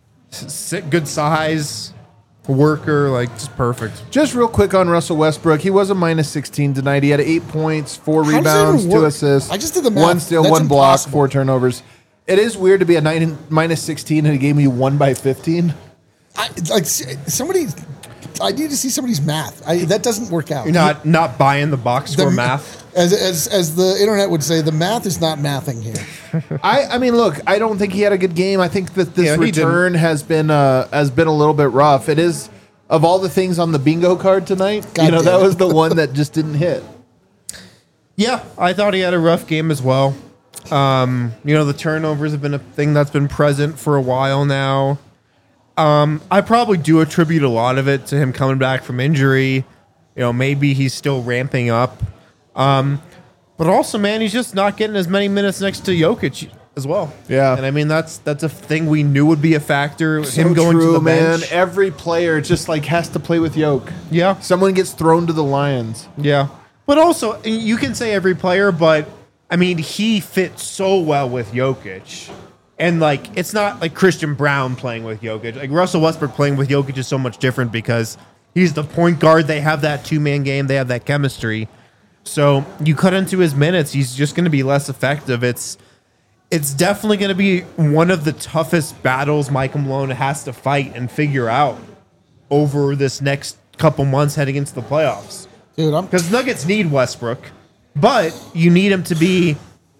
s- good size, worker, like just perfect. Just real quick on Russell Westbrook. He was a minus sixteen tonight. He had eight points, four How does that rebounds, even two work? assists. I just did the math. One steal, That's one block, impossible. four turnovers. It is weird to be a nine, minus sixteen in a game you won by fifteen. I, like somebody, I need to see somebody's math. I, that doesn't work out. You're not not buying the box score The- math. As, as as the internet would say, the math is not mathing here. I, I mean, look, I don't think he had a good game. I think that this Yeah, he return has been uh, has been a little bit rough. It is, of all the things on the bingo card tonight, God you know, that damn it. was the one that just didn't hit. Yeah, I thought he had a rough game as well. Um, you know, the turnovers have been a thing that's been present for a while now. Um, I probably do attribute a lot of it to him coming back from injury. You know, maybe he's still ramping up. Um, but also, man, he's just not getting as many minutes next to Jokic as well. Yeah. And I mean, that's that's a thing we knew would be a factor. So him going true, to the man. bench. Every player just like has to play with Yoke. Yeah. Someone gets thrown to the Lions. Yeah. But also, you can say every player, but I mean, he fits so well with Jokic. And like, it's not like Christian Brown playing with Jokic. Like Russell Westbrook playing with Jokic is so much different because he's the point guard. They have that two-man game. They have that chemistry. So you cut into his minutes, he's just going to be less effective. It's it's definitely going to be one of the toughest battles Michael Malone has to fight and figure out over this next couple months heading into the playoffs. Dude, I'm Because Nuggets need Westbrook, but you need him to be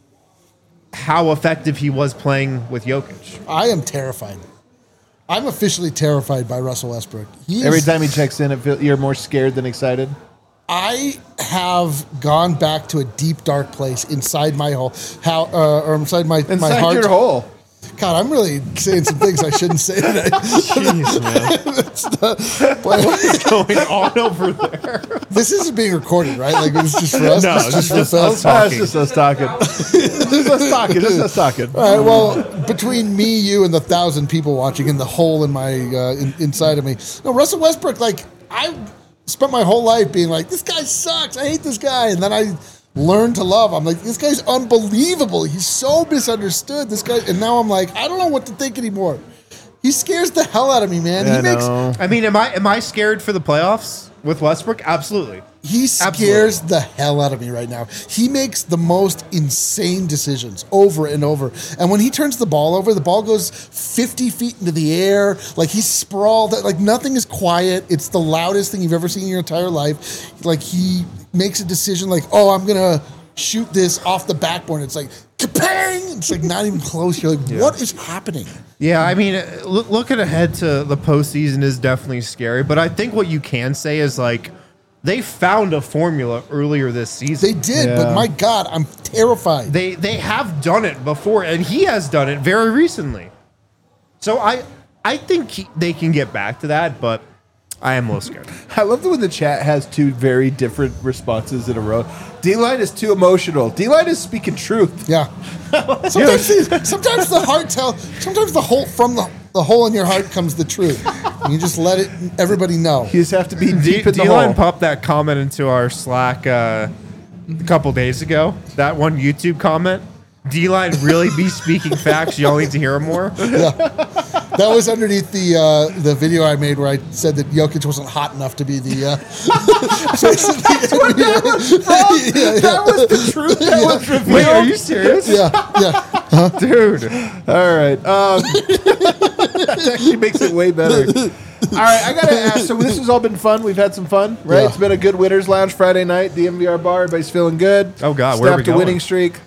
how effective he was playing with Jokic. I am terrified. I'm officially terrified by Russell Westbrook. He is, Every time he checks in, it feel, you're more scared than excited. I have gone back to a deep, dark place inside my hole, how uh, or inside my my Inside heart. your hole. God, I'm really saying some things I shouldn't say today. Jeez, man. But What's going on over there? this isn't being recorded, right? Like it's just for us. No, This is it's just for just fellas. us Ah, talking. it's just us talking. just us talking. Just us talking. All right. Well, between me, you, and the thousand people watching, and the hole in my uh, in, inside of me, no, Russell Westbrook. Like I spent my whole life being like, this guy sucks. I hate this guy, and then I learned to love. I'm like, this guy's unbelievable. He's so misunderstood. This guy, and now I'm like, I don't know what to think anymore. He scares the hell out of me, man. I he makes know. I mean, am I am I scared for the playoffs with Westbrook? Absolutely. He scares the hell out of me right now. He makes the most insane decisions over and over. And when he turns the ball over, the ball goes fifty feet into the air. Like he's sprawled. Like nothing is quiet. It's the loudest thing you've ever seen in your entire life. Like he makes a decision like, oh, I'm going to shoot this off the backboard. It's like, kapang! It's like not even close. You're like, what is happening? Yeah, I mean, uh, look, looking ahead to the postseason is definitely scary. But I think what you can say is like they found a formula earlier this season. They did, Yeah. but my God, I'm terrified. They they have done it before, and he has done it very recently. So I I think he, they can get back to that, but I am a little scared. I love that when the chat has two very different responses in a row. D-Line is too emotional. D-Line is speaking truth. Yeah. Sometimes, the, sometimes the heart tell. Sometimes the hole from the, the hole in your heart comes the truth. And you just let it. Everybody know. You just have to be D- deep in the D-Line hole. popped that comment into our Slack uh, a couple days ago. That one YouTube comment. D-Line really be speaking facts. Y'all need to hear him more. That was underneath the uh, the video I made where I said that Jokic wasn't hot enough to be the. Uh, face of the that, yeah, yeah. that was the truth. That was revealed. Wait, are you serious? yeah, yeah. Dude. All right. Um, that actually makes it way better. All right, I gotta ask. So this has all been fun. We've had some fun, right? Yeah. It's been a good winners lounge Friday night. The M V R bar. Everybody's feeling good. Oh, God, where are we Snapped a going? winning streak.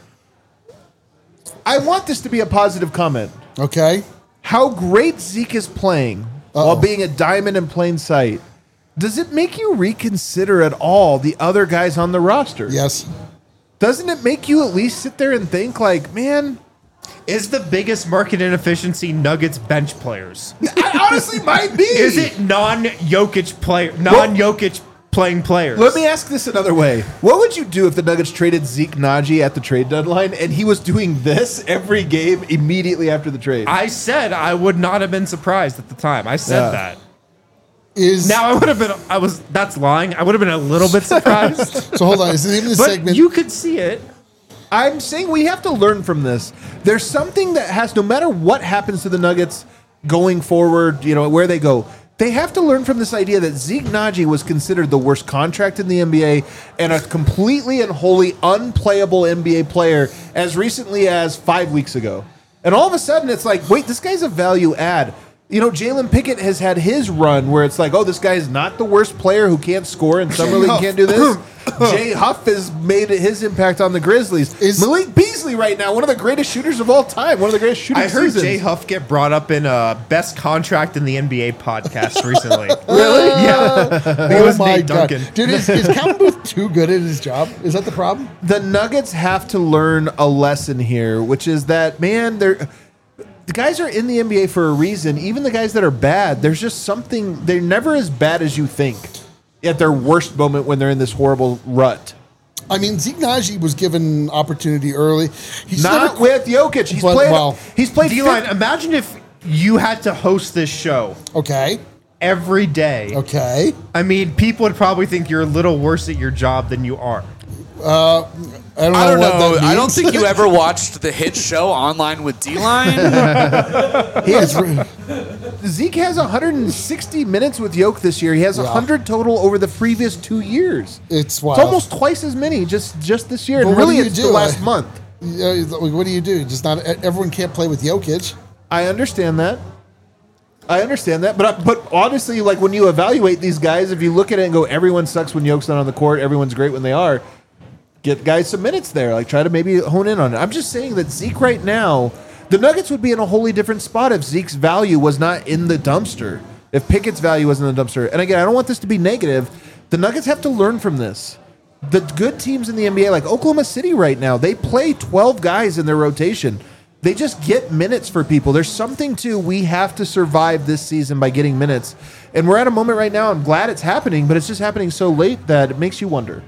I want this to be a positive comment. Okay. How great Zeke is playing while being a diamond in plain sight. Does it make you reconsider at all the other guys on the roster? Yes. Doesn't it make you at least sit there and think like, man, Is the biggest market inefficiency Nuggets bench players? I honestly might be. Is it non-Jokic player, non-Jokic playing players? Let me ask this another way. What would you do if the Nuggets traded Zeke Naji at the trade deadline and he was doing this every game immediately after the trade? I said I would not have been surprised at the time. I said Yeah. that. Is Now I would have been. I was. That's lying. I would have been a little bit surprised, so. Hold on. Is the name of the but segment? you could see it. I'm saying we have to learn from this. There's something that has, no matter what happens to the Nuggets going forward, you know, where they go, they have to learn from this idea that Zeke Naji was considered the worst contract in the N B A and a completely and wholly unplayable N B A player as recently as five weeks ago. And all of a sudden, it's like, wait, this guy's a value add. You know, Jalen Pickett has had his run where it's like, oh, this guy is not the worst player who can't score in summer league and can't do this. Jay Huff has made his impact on the Grizzlies. Is- Malik Beasley right now one of the greatest shooters of all time? One of the greatest shooting I heard seasons. Jay Huff get brought up in a best contract in the N B A podcast recently. Really? Yeah. I think it Oh was my Nate god, Duncan. dude! Is, is Calvin Booth too good at his job? Is that the problem? The Nuggets have to learn a lesson here, which is that, man, they're the guys are in the N B A for a reason. Even the guys that are bad, there's just something. They're never as bad as you think at their worst moment when they're in this horrible rut. I mean, Zeke Naji was given opportunity early. He's Not never, with Jokic. He's But, played. well, he's played. D-Line, fif- imagine if you had to host this show okay, every day. okay. I mean, people would probably think you're a little worse at your job than you are. I don't know I don't what know. that I don't means. think you ever watched the hit show Online with D-Line. he has, Zeke has one hundred sixty minutes with Jokic this year. He has Yeah. one hundred total over the previous two years. It's wild. It's almost twice as many just just this year. But And what really, do you it's do? the last I- month. Yeah, what do you do? Just not everyone can't play with Jokic. I understand that. I understand that, but but honestly, like when you evaluate these guys, if you look at it and go, everyone sucks when Jokic's not on the court, everyone's great when they are. Get guys some minutes there. Like try to maybe hone in on it. I'm just saying that Zeke right now, the Nuggets would be in a wholly different spot if Zeke's value was not in the dumpster. If Pickett's value was in the dumpster. And again, I don't want this to be negative. The Nuggets have to learn from this. The good teams in the N B A, like Oklahoma City right now, they play twelve guys in their rotation. They just get minutes for people. There's something to we have to survive this season by getting minutes. And we're at a moment right now, I'm glad it's happening, but it's just happening so late that it makes you wonder.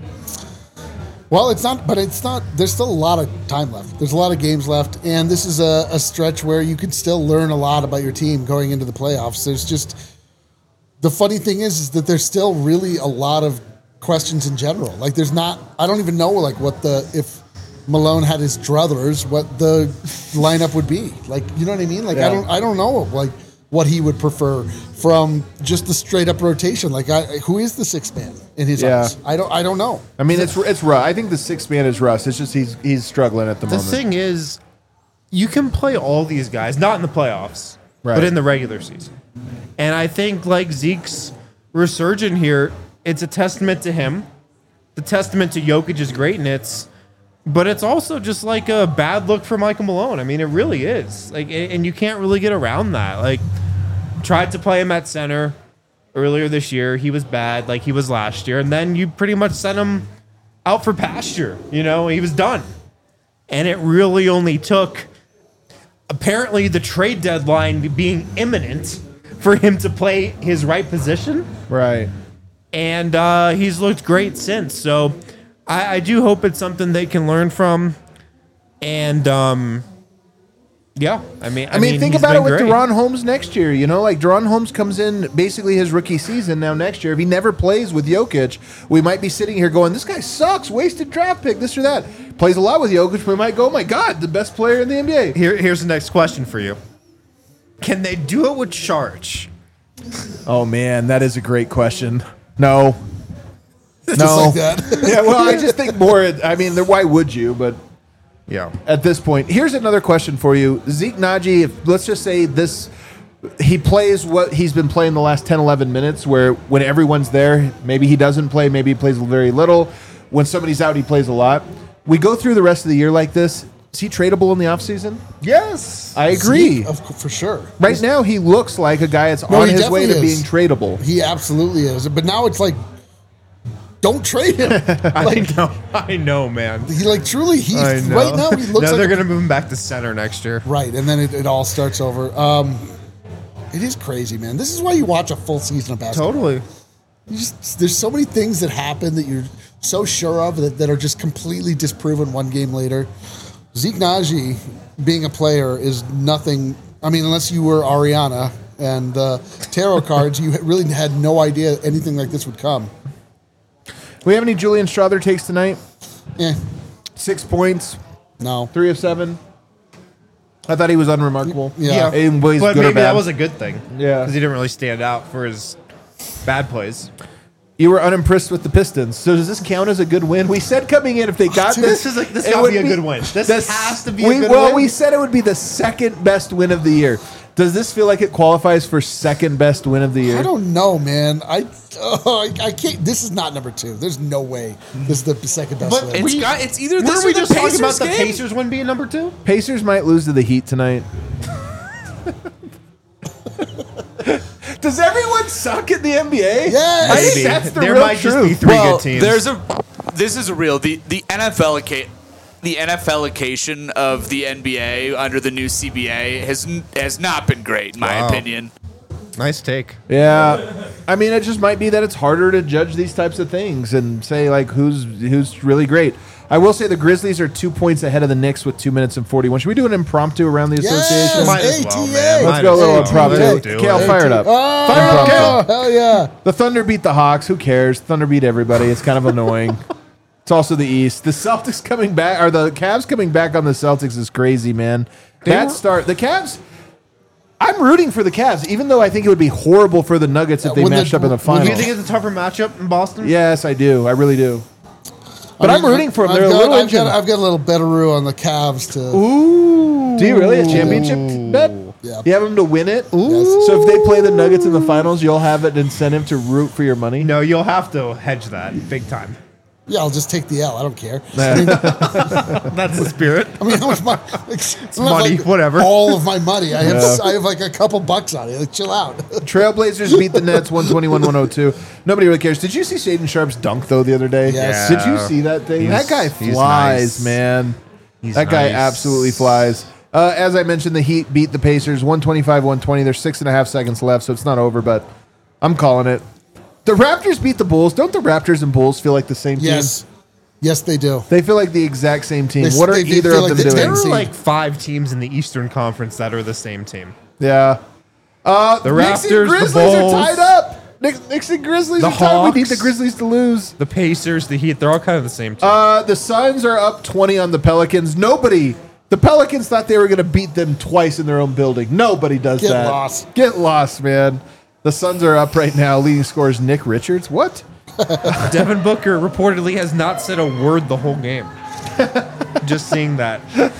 Well, it's not, but it's not. There's still a lot of time left. There's a lot of games left, and this is a, a stretch where you can still learn a lot about your team going into the playoffs. There's just the funny thing is, is that there's still really a lot of questions in general. Like, there's not. I don't even know like what the if Malone had his druthers, what the lineup would be. Like, you know what I mean? Like, Yeah. I don't. I don't know. Like, what he would prefer from just the straight up rotation. Like, I, who is the sixth man in his Yeah. eyes? I don't. I don't know. I mean, it's it's Russ. I think the sixth man is Russ. It's just he's he's struggling at the, The moment. thing is, you can play all these guys, not in the playoffs, Right. but in the regular season. And I think like Zeke's resurgent here, it's a testament to him, the testament to Jokic's greatness, but it's also just like a bad look for Michael Malone. I mean, it really is. Like, and you can't really get around that. Like, tried to play him at center earlier this year. He was bad, like he was last year, and then you pretty much sent him out for pasture. You know, he was done. And it really only took, apparently, the trade deadline being imminent for him to play his right position. Right. And uh, he's looked great since. So I, I do hope it's something they can learn from. And um, yeah, I mean, I, I mean, think he's about it been with great. Deron Holmes next year. You know, like Deron Holmes comes in basically his rookie season now next year. If he never plays with Jokic, we might be sitting here going, this guy sucks, wasted draft pick, this or that. Plays a lot with Jokic, we might go, oh my God, the best player in the N B A. Here, here's the next question for you. Can they do it with Charge? Oh, man, that is a great question. No. Just No. like that. Yeah, well, I just think more, I mean, why would you? But Yeah. at this point, here's another question for you. Zeke Naji, if, let's just say this, he plays what he's been playing the last ten, eleven minutes, where when everyone's there, maybe he doesn't play, maybe he plays very little. When somebody's out, he plays a lot. We go through the rest of the year like this. Is he tradable in the offseason? Yes. I agree. Zeke, of, for sure. Right now, he looks like a guy that's No, on he his way to definitely being is. tradable. He absolutely is. But now it's like, don't trade him. I Like, know. I know, man. he like truly, he I know. right now he looks now like they're a- going to move him back to center next year. right, and then it, it all starts over. Um, it is crazy, man. This is why you watch a full season of basketball. Totally. You just, there's so many things that happen that you're so sure of that, that are just completely disproven one game later. Zeke Naji being a player is nothing. I mean, unless you were Ariana and uh, tarot cards, you really had no idea anything like this would come. We have any Julian Strother takes tonight? Eh, Six points, no. three of seven. I thought he was unremarkable. Yeah. In ways But good or maybe bad. that was a good thing. Yeah. Because he didn't really stand out for his bad plays. You were unimpressed with the Pistons. So does this count as a good win? We said coming in, if they got Dude, this, this is like- this it gotta would be a good win. This has to be a we, good well, win. we said it would be the second best win of the year. Does this feel like it qualifies for second best win of the year? I don't know, man. I, oh, I I can't. This is not number two. There's no way this is the second best But win. It's We- got. It's either Were this we or the just talking Pacers about the game. Pacers one being number two? Pacers might lose to the Heat tonight. Does everyone suck in the N B A? Yes. I think Maybe. that's the there real might just be truth. three well, good teams. there's a. This is real. The the N F L occa- the N F L occasion of the N B A under the new C B A has n- has not been great, in my Wow. opinion. nice take. Yeah, I mean, it just might be that it's harder to judge these types of things and say like who's who's really great. I will say the Grizzlies are two points ahead of the Knicks with two minutes and forty-one. Should we do an impromptu around the Yes. association? Might as well, A T A. man. Let's Might go a as little well. impromptu. Let's do Kale, it. fire it up. Oh, Fire it up, Kale. hell yeah. The Thunder beat the Hawks. Who cares? Thunder beat everybody. It's kind of annoying. It's also the East. The Celtics coming back, or the Cavs coming back on the Celtics is crazy, man. That were- start, the Cavs. I'm rooting for the Cavs, even though I think it would be horrible for the Nuggets if they When the- matched up in the when finals. Do you think it's a tougher matchup in Boston? Yes, I do. I really do. But I I'm mean, rooting for them. I've They're got, a little I've got, engine. I've got a little betteroo on the Cavs to. Ooh. Do you really? A championship bet? Yeah. You have them to win it? Yes. So if they play the Nuggets in the finals, you'll have an incentive to root for your money? No, you'll have to hedge that big time. Yeah, I'll just take the L. I don't care. I mean, That's the spirit. I mean, how much money? It's money, whatever. All of my money. I have. I have like a couple bucks on it. Like, chill out. Trailblazers beat the Nets one twenty-one to one oh two. Nobody really cares. Did you see Shaden Sharp's dunk, though, the other day? Yes. Did you see that thing? He's- That guy he's flies, nice. man. He's that guy nice. absolutely flies. Uh, as I mentioned, the Heat beat the Pacers one twenty-five one twenty. There's six and a half seconds left, so it's not over, but I'm calling it. The Raptors beat the Bulls. Don't the Raptors and Bulls feel like the same team? Yes. Yes, they do. They feel like the exact same team. They- what are they- they either feel of like them the doing? There are seed. like five teams in the Eastern Conference that are the same team. Yeah. Uh, The Knicks and Raptors, the Grizzlies Bulls. are tied up. Knicks, Knicks and Grizzlies The are tied. We need Hawks. the Grizzlies to lose. The Pacers, the Heat, they're all kind of the same team. Uh, the Suns are up twenty on the Pelicans. Nobody. The Pelicans thought they were going to beat them twice in their own building. Nobody does Get that. lost. Get lost, man. The Suns are up right now. Leading scorers Nick Richards. What? Devin Booker reportedly has not said a word the whole game. Just seeing that.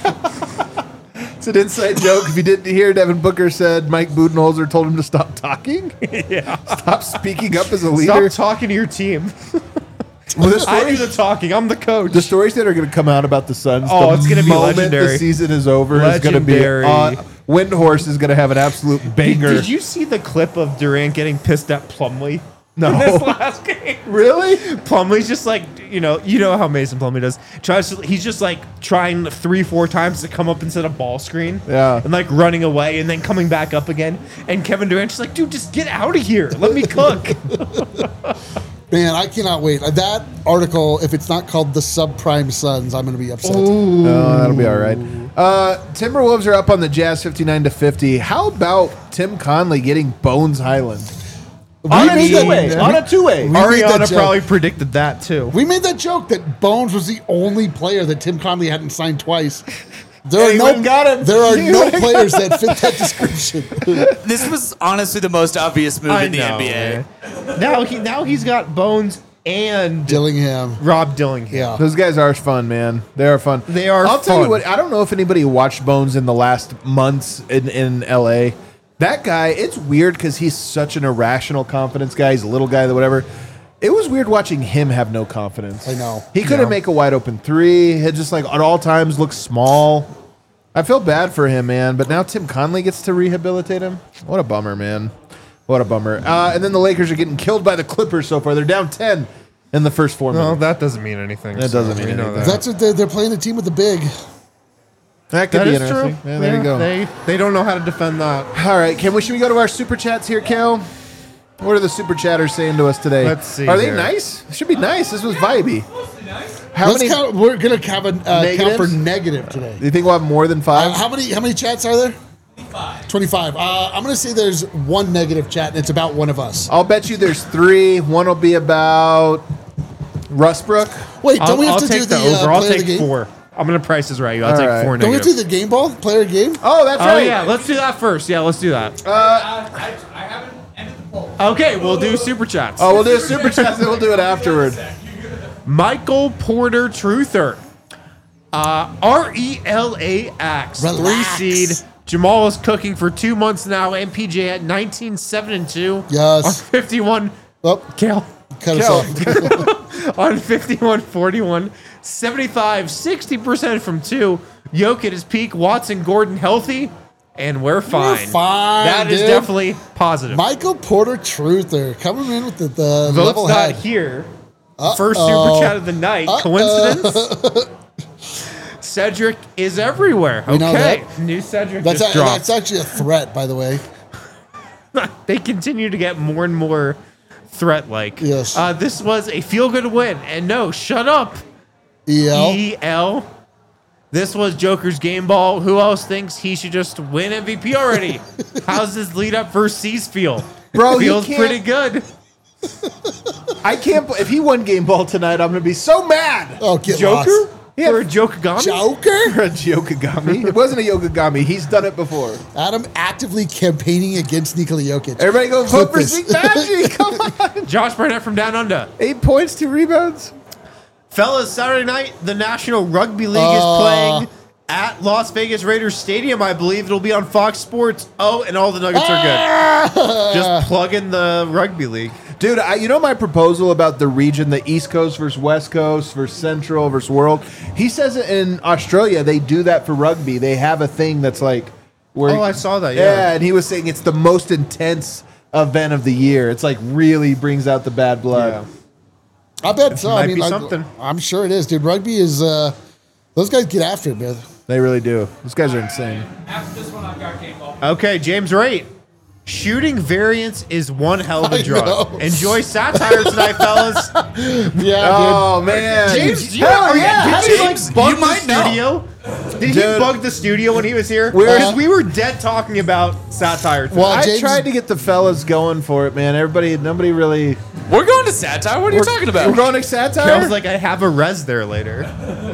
It's an inside joke. If you didn't hear, Devin Booker said Mike Budenholzer told him to stop talking. Yeah. Stop speaking up as a leader. Stop talking to your team. Well, the I do stories, the talking. I'm the coach. the stories that are going to come out about the Suns. Oh, the it's gonna be moment legendary. The season is over. Is going to be. Legendary. Uh, Windhorse is going to have an absolute Did, banger. did you see the clip of Durant getting pissed at Plumlee? No. In this last game. Really? Plumlee's just like, you know, you know how Mason Plumlee does. Tries to, he's just like trying three, four times to come up and set a ball screen. Yeah. And like running away and then coming back up again. And Kevin Durant's just like, dude, just get out of here. Let me cook. Man, I cannot wait. That article, if it's not called the Subprime Suns, I'm going to be upset. Oh, that'll be all right. Uh, Timberwolves are up on the Jazz fifty-nine to fifty. How about Tim Conley getting Bones Highland? On a made that- two-way. On a two-way. We made that Ariana joke. probably predicted that too. We made that joke that Bones was the only player that Tim Conley hadn't signed twice. There And are he no, wouldn't got him. There are He no wouldn't players that fit that description. This was honestly the most obvious move I in the know, N B A. man. Now he now he's got Bones and Dillingham. Rob Dillingham. Yeah. Those guys are fun, man. They are fun. They are I'll tell you fun. what. I don't know if anybody watched Bones in the last months in, in L A. That guy, it's weird because he's such an irrational confidence guy. He's a little guy, that whatever. It was weird watching him have no confidence. I know. He couldn't Yeah. make a wide open three. He just like at all times looks small. I feel bad for him, man. But now Tim Conley gets to rehabilitate him. What a bummer, man. What a bummer. Uh, and then the Lakers are getting killed by the Clippers so far. They're down ten in the first four Well, minutes. that doesn't mean anything. That doesn't mean we know anything. that. That's what they're, they're playing a team with the big. That could That be is true. interesting. Yeah, there you go. They they don't know how to defend that. All right, can we? Should we go to our super chats here, Kel? What are the super chatters saying to us today? Let's see Are they here. nice? It should be nice. This was vibey. How Let's many? count. We're gonna have a uh, count for Negatives? negative today. Do you think we'll have more than Uh, five? how many? How many chats are there? Twenty-five. Twenty-five. Uh, I'm gonna say there's one negative chat, and it's about one of us. I'll bet you there's three. One will be about Rustbrook. Wait, don't I'll, we have I'll to take do the, the, over. uh, I'll player of the take game? four. I'm gonna price this right. I'll All take right. four Don't we have negative. to do the game ball player of the game? Oh, that's Oh right. yeah, let's do that first. Yeah, let's do that. I, I haven't ended the poll. Okay, we'll do super chats. Oh, we'll do a super chat, then we'll do it afterward. Michael Porter Truther. Uh, R E L A X. Relax. Three seed Jamal is cooking for two months now. M P J at nineteen, seven, and two. Yes. On fifty-one. Oh, Kale. cut us off. On fifty-one, forty-one, seventy-five, sixty percent from two. Yoke at his peak. Watson, Gordon healthy. And we're fine. fine, That is dude. definitely positive. Michael Porter Truther coming in with the, the Vote's level not head. here. First super chat of the night. Coincidence? Cedric is everywhere. We know Okay. that. New Cedric That's, just a, dropped. that's actually a threat, by the way. They continue to get more and more threat-like. Yes. Uh, this was a feel-good win. And no, shut up, E L. E L. This was Joker's game ball. Who else thinks he should just win M V P already? How's this lead up for C's feel? Bro, he Feels can't- pretty good. I can't. If he won game ball tonight, I'm gonna be so mad. Oh, get Joker? lost. Yeah. For a Jokagami? Joker? For a Yokogami. It wasn't a Yokogami. He's done it before. Adam actively campaigning against Nikola Jokic. Everybody go vote for this. Zeke Magic. Come on. Josh Burnett from Down Under. Eight points, two rebounds. Fellas, Saturday night, the National Rugby League Uh. is playing at Las Vegas Raiders Stadium, I believe. It'll be on Fox Sports. Oh, and all the Nuggets are good. Just plug in the Rugby League. Dude, I, you know my proposal about the region, the East Coast versus West Coast versus Central versus World? He says it in Australia, they do that for rugby. They have a thing that's like... where Oh, I saw that, Yeah, yeah. and he was saying it's the most intense event of the year. It's like really brings out the bad blood. I bet so. might I mean, be like, something. I'm sure it is, dude. Rugby is, uh, those guys get after it, man. They really do. Those guys are insane. After this one, I've got game ball. Okay, James Wright. Shooting variance is one hell of a I drug. know. Enjoy satire tonight, fellas. Yeah, Oh, man. James, you, Hell are you- yeah. did How you did like James, bug you the might know. studio? Did he Dude. bug the studio when he was here? We're- Because we were dead talking about satire tonight. Well, I James- tried to get the fellas going for it, man. Everybody, nobody really... We're going to satire. What are you talking about? We're going to satire? Feels like I have a res there later.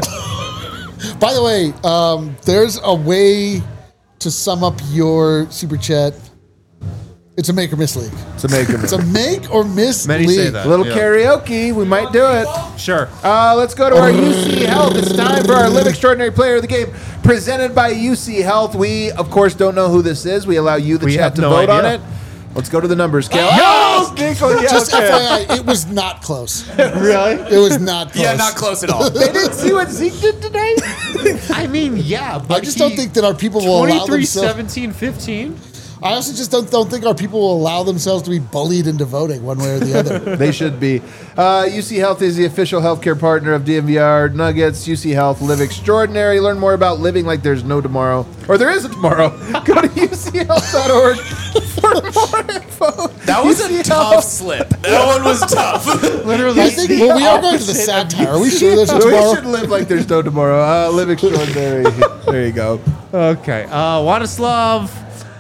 By the way, um, there's a way to sum up your super chat. It's a make or miss league. to make them. It's a make or miss Many league. say that. A little Yeah. karaoke. We might do it. Sure. Uh, let's go to our U C Health. It's time for our Live Extraordinary Player of the Game, presented by U C Health. We, of course, don't know who this is. We allow you, the We chat, have to no vote on idea. it. Let's go to the numbers, Cal. Yes! Oh, Nico, yeah, Just okay. F Y I, it was not close. Really? It was not close. Yeah, not close at all. They didn't see what Zeke did today? I mean, yeah, but I just don't he- think that our people will allow twenty-three, themselves. seventeen, fifteen. I also just don't don't think our people will allow themselves to be bullied into voting one way or the other. They should be. Uh, U C Health is the official healthcare partner of D M V R Nuggets. U C Health, live extraordinary. Learn more about living like there's no tomorrow. Or there is a tomorrow. Go to U C health dot org for more info. That was U C a tough Health. slip. That one was tough. Literally, I think the well, we are going to the opposite of satire. Are we sure there's a We tomorrow? should live like there's no tomorrow. Uh, live extraordinary. There you go. Okay. Uh, Władysław,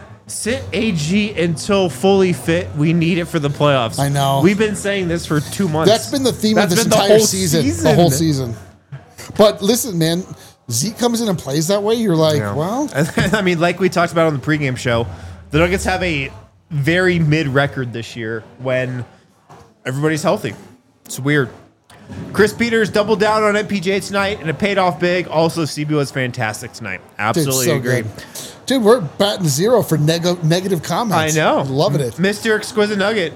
sit A G until fully fit. We need it for the playoffs. I know. We've been saying this for two months. That's been the theme That's of this been the entire whole season, The whole season. But listen, man, Zeke comes in and plays that way. You're like, Yeah. well, I mean, like we talked about on the pregame show, the Nuggets have a very mid record this year when everybody's healthy. It's weird. Chris Peters doubled down on M P J tonight, and it paid off big. Also, C B was fantastic tonight. dude, Absolutely so agree. good. Dude, we're batting zero for neg- negative comments. I know. Loving it. Mister Exquisite Nugget.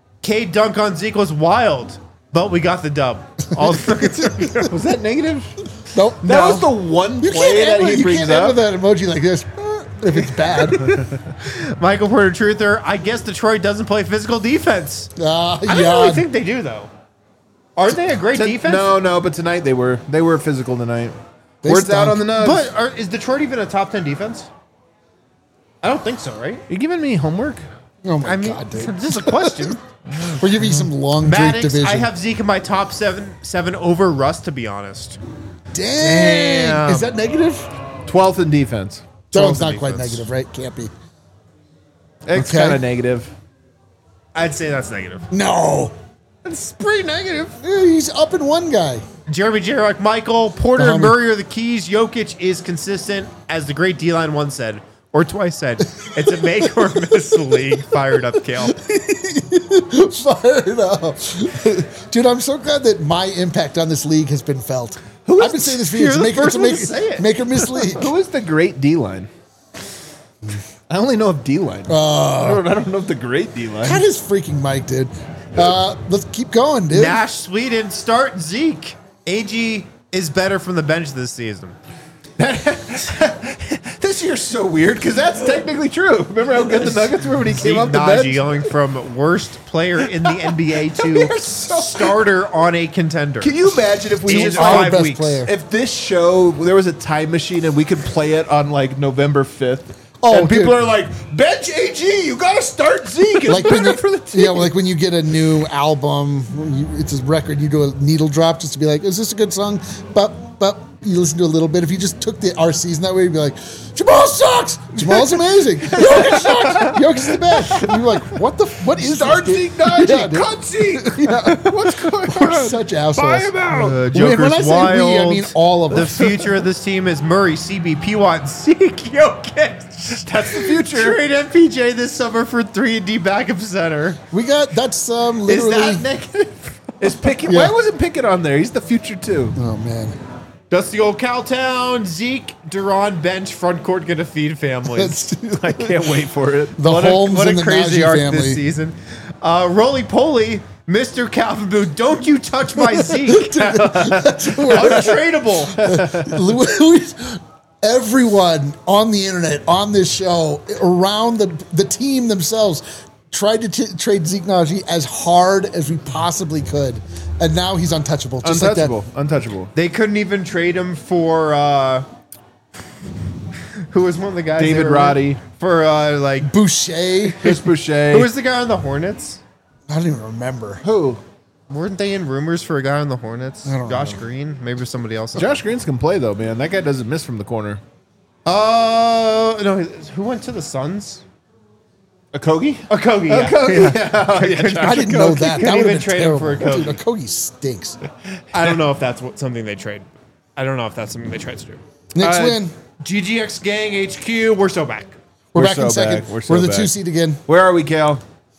K dunk on Zeke was wild, but we got the dub. All the Nuggets are good. Was that negative? Nope. That No. was the one You play can't, that end, he you brings can't end up. with that emoji like this uh, if it's bad. Michael Porter Truther. I guess Detroit doesn't play physical defense. Uh, I don't yeah. really think they do, though. Aren't they a great T- defense? No, no, but tonight they were. They were physical tonight. They Words stunk. out on the nubs. But are, is Detroit even a top ten defense? I don't think so, right? you giving me homework? oh my I mean, God, dude. this is a question. We're giving you some long drink Maddox, division. I have Zeke in my top seven, seven over Russ, to be honest. Dang. Damn. Is that negative? twelfth in defense. That one's twelfth not quite defense. negative, right? Can't be. It's Okay. kind of negative. I'd say that's negative. No. It's pretty negative. Yeah, he's up in one guy. Jeremy Jarek, Michael, Porter, The and homie. Murray are the keys. Jokic is consistent, as the great D-line once said, or twice said. It's a make or miss league. Fired up, Kale. Fired up. Dude, I'm so glad that my impact on this league has been felt. Who is- I've been saying this for You're years. the Make, first it's a one make, to say it. make or miss league. Who is the great D line? I only know of D-line. I, don't, I don't know of the great D-line. Cut his freaking mic, dude. Uh, let's keep going, dude. Nash, Sweden, start Zeke. A G is better from the bench this season. This year's so weird because that's technically true. Remember how good the Nuggets were when he Zeke came off the Naji bench? going from worst player in the N B A to They're so- starter on a contender. Can you imagine if we In just Our five best weeks. player. if this show there was a time machine and we could play it on like November fifth? Oh, and people dude. are like, bench A G, you got to start Zeke. It's Like when better you, for the team. yeah, like when you get a new album, when you, it's a record, you do a needle drop just to be like, is this a good song? But but you listen to a little bit. If you just took the our season that way, you'd be like, Jamal sucks. Jamal's amazing. Jokic sucks. Jokic's the best. And you're like, what the what is Start this, Zeke dude? Naji, Yeah, dude. cut Zeke. Yeah. What's going We're on? such assholes. Buy him out. Uh, When- Joker's when I say wild. we, I mean all of the us. future of this team is Murray, C B, P Watt, Zeke, Jokic. That's the future. Trade M P J this summer for three and D backup center. We got that's um Is literally. that negative? Is Pickett? Yeah. Why wasn't Pickett on there? He's the future too. Oh man, That's the old Cowtown. Zeke, Duran, bench, front court gonna feed families. that's I can't wait for it. the what Holmes a, what and a the crazy Najee arc family. this season. Uh, Roly Poly, Mister Calvin Booth, don't you touch my Zeke. Untradeable. Louis, everyone on the internet, on this show, around the the team themselves, tried to t- trade Zeke Naji as hard as we possibly could, and now he's untouchable. Just Untouchable. like Untouchable. They couldn't even trade him for uh, who was one of the guys? they David were with? Roddy. For uh, like that. Boucher. Chris Boucher. who was the guy on the Hornets? I don't even remember. Who? Weren't they in rumors for a guy on the Hornets? I don't Josh know. Green? Maybe it was somebody else. Josh Greens can play though, man. That guy doesn't miss from the corner. Oh no! Who went to the Suns? A Kogi? Okogie. Yeah. Okogie. Yeah. yeah, Josh I didn't know that. couldn't That would even have been trade him terrible. for a Kobe. Dude, Okogie stinks. I don't know if that's what, something they trade. I don't know if that's something they tried to do. Next Uh, win. G G X Gang H Q. We're so back. We're, we're back so in second. back. We're, We're so the back. two seed again. Where are we, Cal?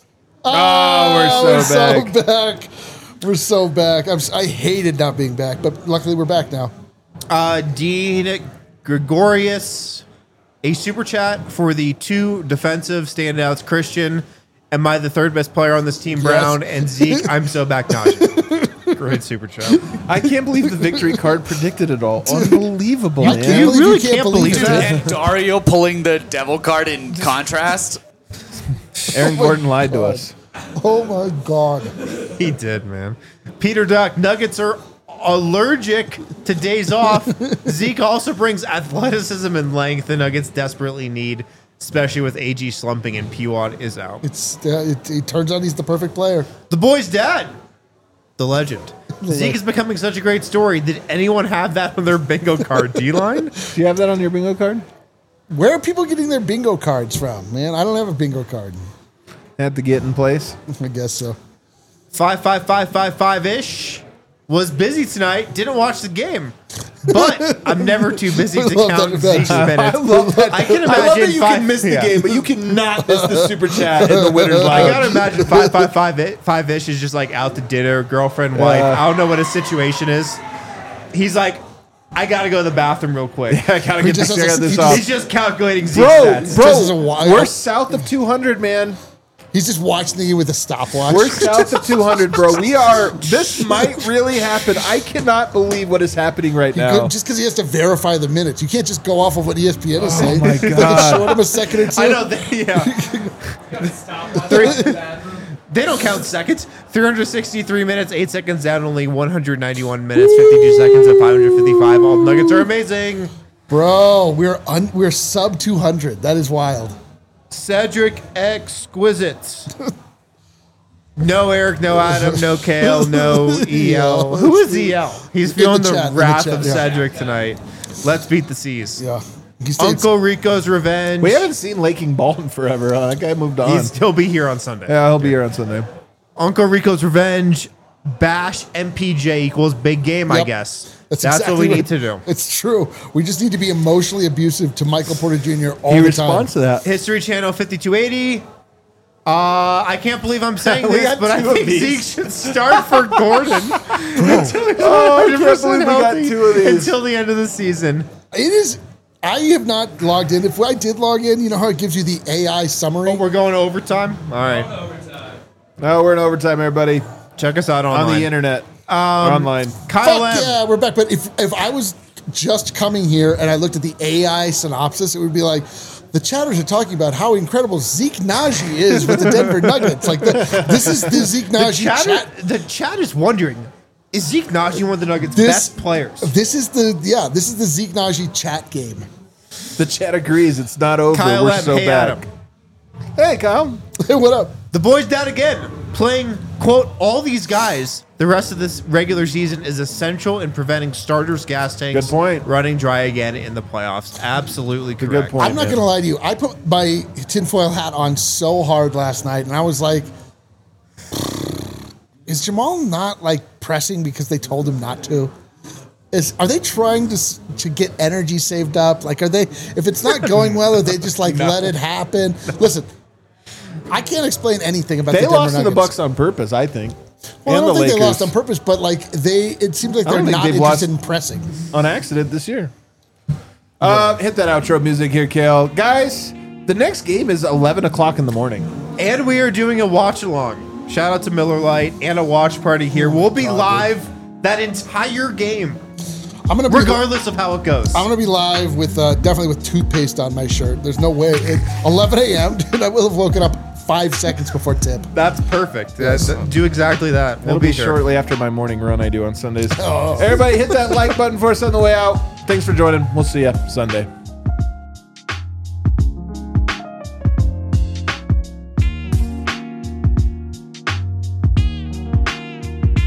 Oh, we're so back. back. We're so back. I'm, s- I hated not being back, but luckily we're back now. Uh, Dean Gregorius, a super chat for the two defensive standouts, Christian. Am I the third best player on this team, Brown? Yes. And Zeke, I'm so back Najee. Great super chat. I can't believe the victory card predicted it all. Unbelievable, I man. can't You believe really you can't, can't believe, believe it. that. And Dario pulling the devil card in contrast. Aaron Gordon lied to us. Oh my god. He did, man. Peter Duck, Nuggets are allergic to days off. Zeke also brings athleticism and length the Nuggets desperately need, especially with A G slumping and P W A D is out. It's uh, it, it turns out he's the perfect player. The boy's dad, the legend. Zeke is becoming such a great story. Did anyone have that on their bingo card? D-line? Do you have that on your bingo card? Where are people getting their bingo cards from, man? I don't have a bingo card. Had to get in place. I guess so. Five, five, five, five, five ish. Was busy tonight. Didn't watch the game, but I'm never too busy to I love count that. Zeke's minutes. I love that. I can I love imagine that you five- can miss the yeah. game, but you cannot miss the super chat in the winner's I line. gotta imagine five, five, five, i- five ish is just like out to dinner, girlfriend, wife. Yeah. I don't know what his situation is. He's like, I gotta go to the bathroom real quick. I gotta He get just this, has check to- this he off. He's just calculating Zeke's Bro, stats. bro, Just as a wild- we're south of two hundred, man. He's just watching the game with a stopwatch. We're south of two hundred, bro. We are. This might really happen. I cannot believe what is happening right You now. could- just because he has to verify the minutes. You can't just go off of what E S P N is saying. my They can God. short him a second or two. I know, they, yeah. Gotta stop watching Three- the bathroom. They don't count seconds. three hundred sixty-three minutes, eight seconds down, only one hundred ninety-one minutes, fifty-two seconds at five hundred fifty-five. All Nuggets are amazing. Bro, we're un- we're sub two hundred. That is wild. Cedric Exquisite. No Eric, no Adam, no Kale, no E L. Who is E L? He's In feeling the the, chat, in the wrath chat, of yeah. Cedric tonight. Let's beat the C's. Yeah. He stayed- Uncle Rico's Revenge. we haven't seen Laking Ball in forever. Huh? That guy moved on. He's, he'll be here on Sunday. yeah, he'll be here on Sunday. Uncle Rico's Revenge. Bash M P J equals big game, I Yep. guess. That's, That's, exactly what we need to do. It's true. We just need to be emotionally abusive to Michael Porter Junior all He the responds time. to that. History Channel fifty-two eighty. Uh, I can't believe I'm saying We this, got but I two of think Zeke these. should start for Gordon. Oh, I can't believe we got two of these. Until the end of the season. It is. I have not logged in. If I did log in, you know how it gives you the A I summary? Oh, we're going to overtime? All right. No, we're in overtime, everybody. Check us out online. On the internet. Um, online. Kyle Fuck M. yeah, we're back. But if, if I was just coming here and I looked at the A I synopsis, it would be like, the chatters are talking about how incredible Zeke Najee is with the Denver Nuggets. Like, the, this is the Zeke The Najee chat, chat. the chat is wondering, is Zeke Najee one of the Nuggets' This- best players? This is the, yeah, this is the Zeke Najee chat game. The chat agrees. It's not over. Kyle we're M. so Hey, back. Adam. Hey, Kyle. Hey, what up? The boys down again, playing, quote, all these guys. The rest of this regular season is essential in preventing starters' gas tanks Good point. running dry again in the playoffs. Absolutely correct. good point. I'm not man. going to lie to you. I put my tinfoil hat on so hard last night, and I was like, is Jamal not like pressing because they told him not to? Is Are they trying to s- to get energy saved up? Like, are they, if it's not going well, are they just like, let it happen? Listen, I can't explain anything about They the Denver lost to the Nuggets. Bucks on purpose, I think. Well, and I don't the think Lakers they lost on purpose, but like they, it seems like I they're don't think not they've interested lost- in pressing. on accident this year. Uh, hit that outro music here, Kale. Guys, the next game is eleven o'clock in the morning. And we are doing a watch along. Shout out to Miller Lite and a watch party here. We'll be live that entire game, I'm gonna be regardless of how it goes. I'm gonna be live with uh, definitely with toothpaste on my shirt. There's no way. At eleven a.m., dude, I will have woken up five seconds before tip. That's perfect. Uh, th- do exactly that. We'll It'll be, be here. shortly after my morning run I do on Sundays. Oh. Everybody hit that like button for us on the way out. Thanks for joining. We'll see you Sunday.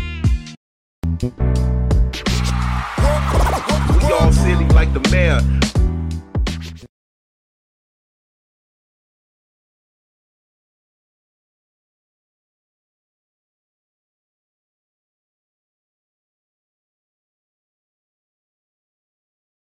We all silly like the mayor.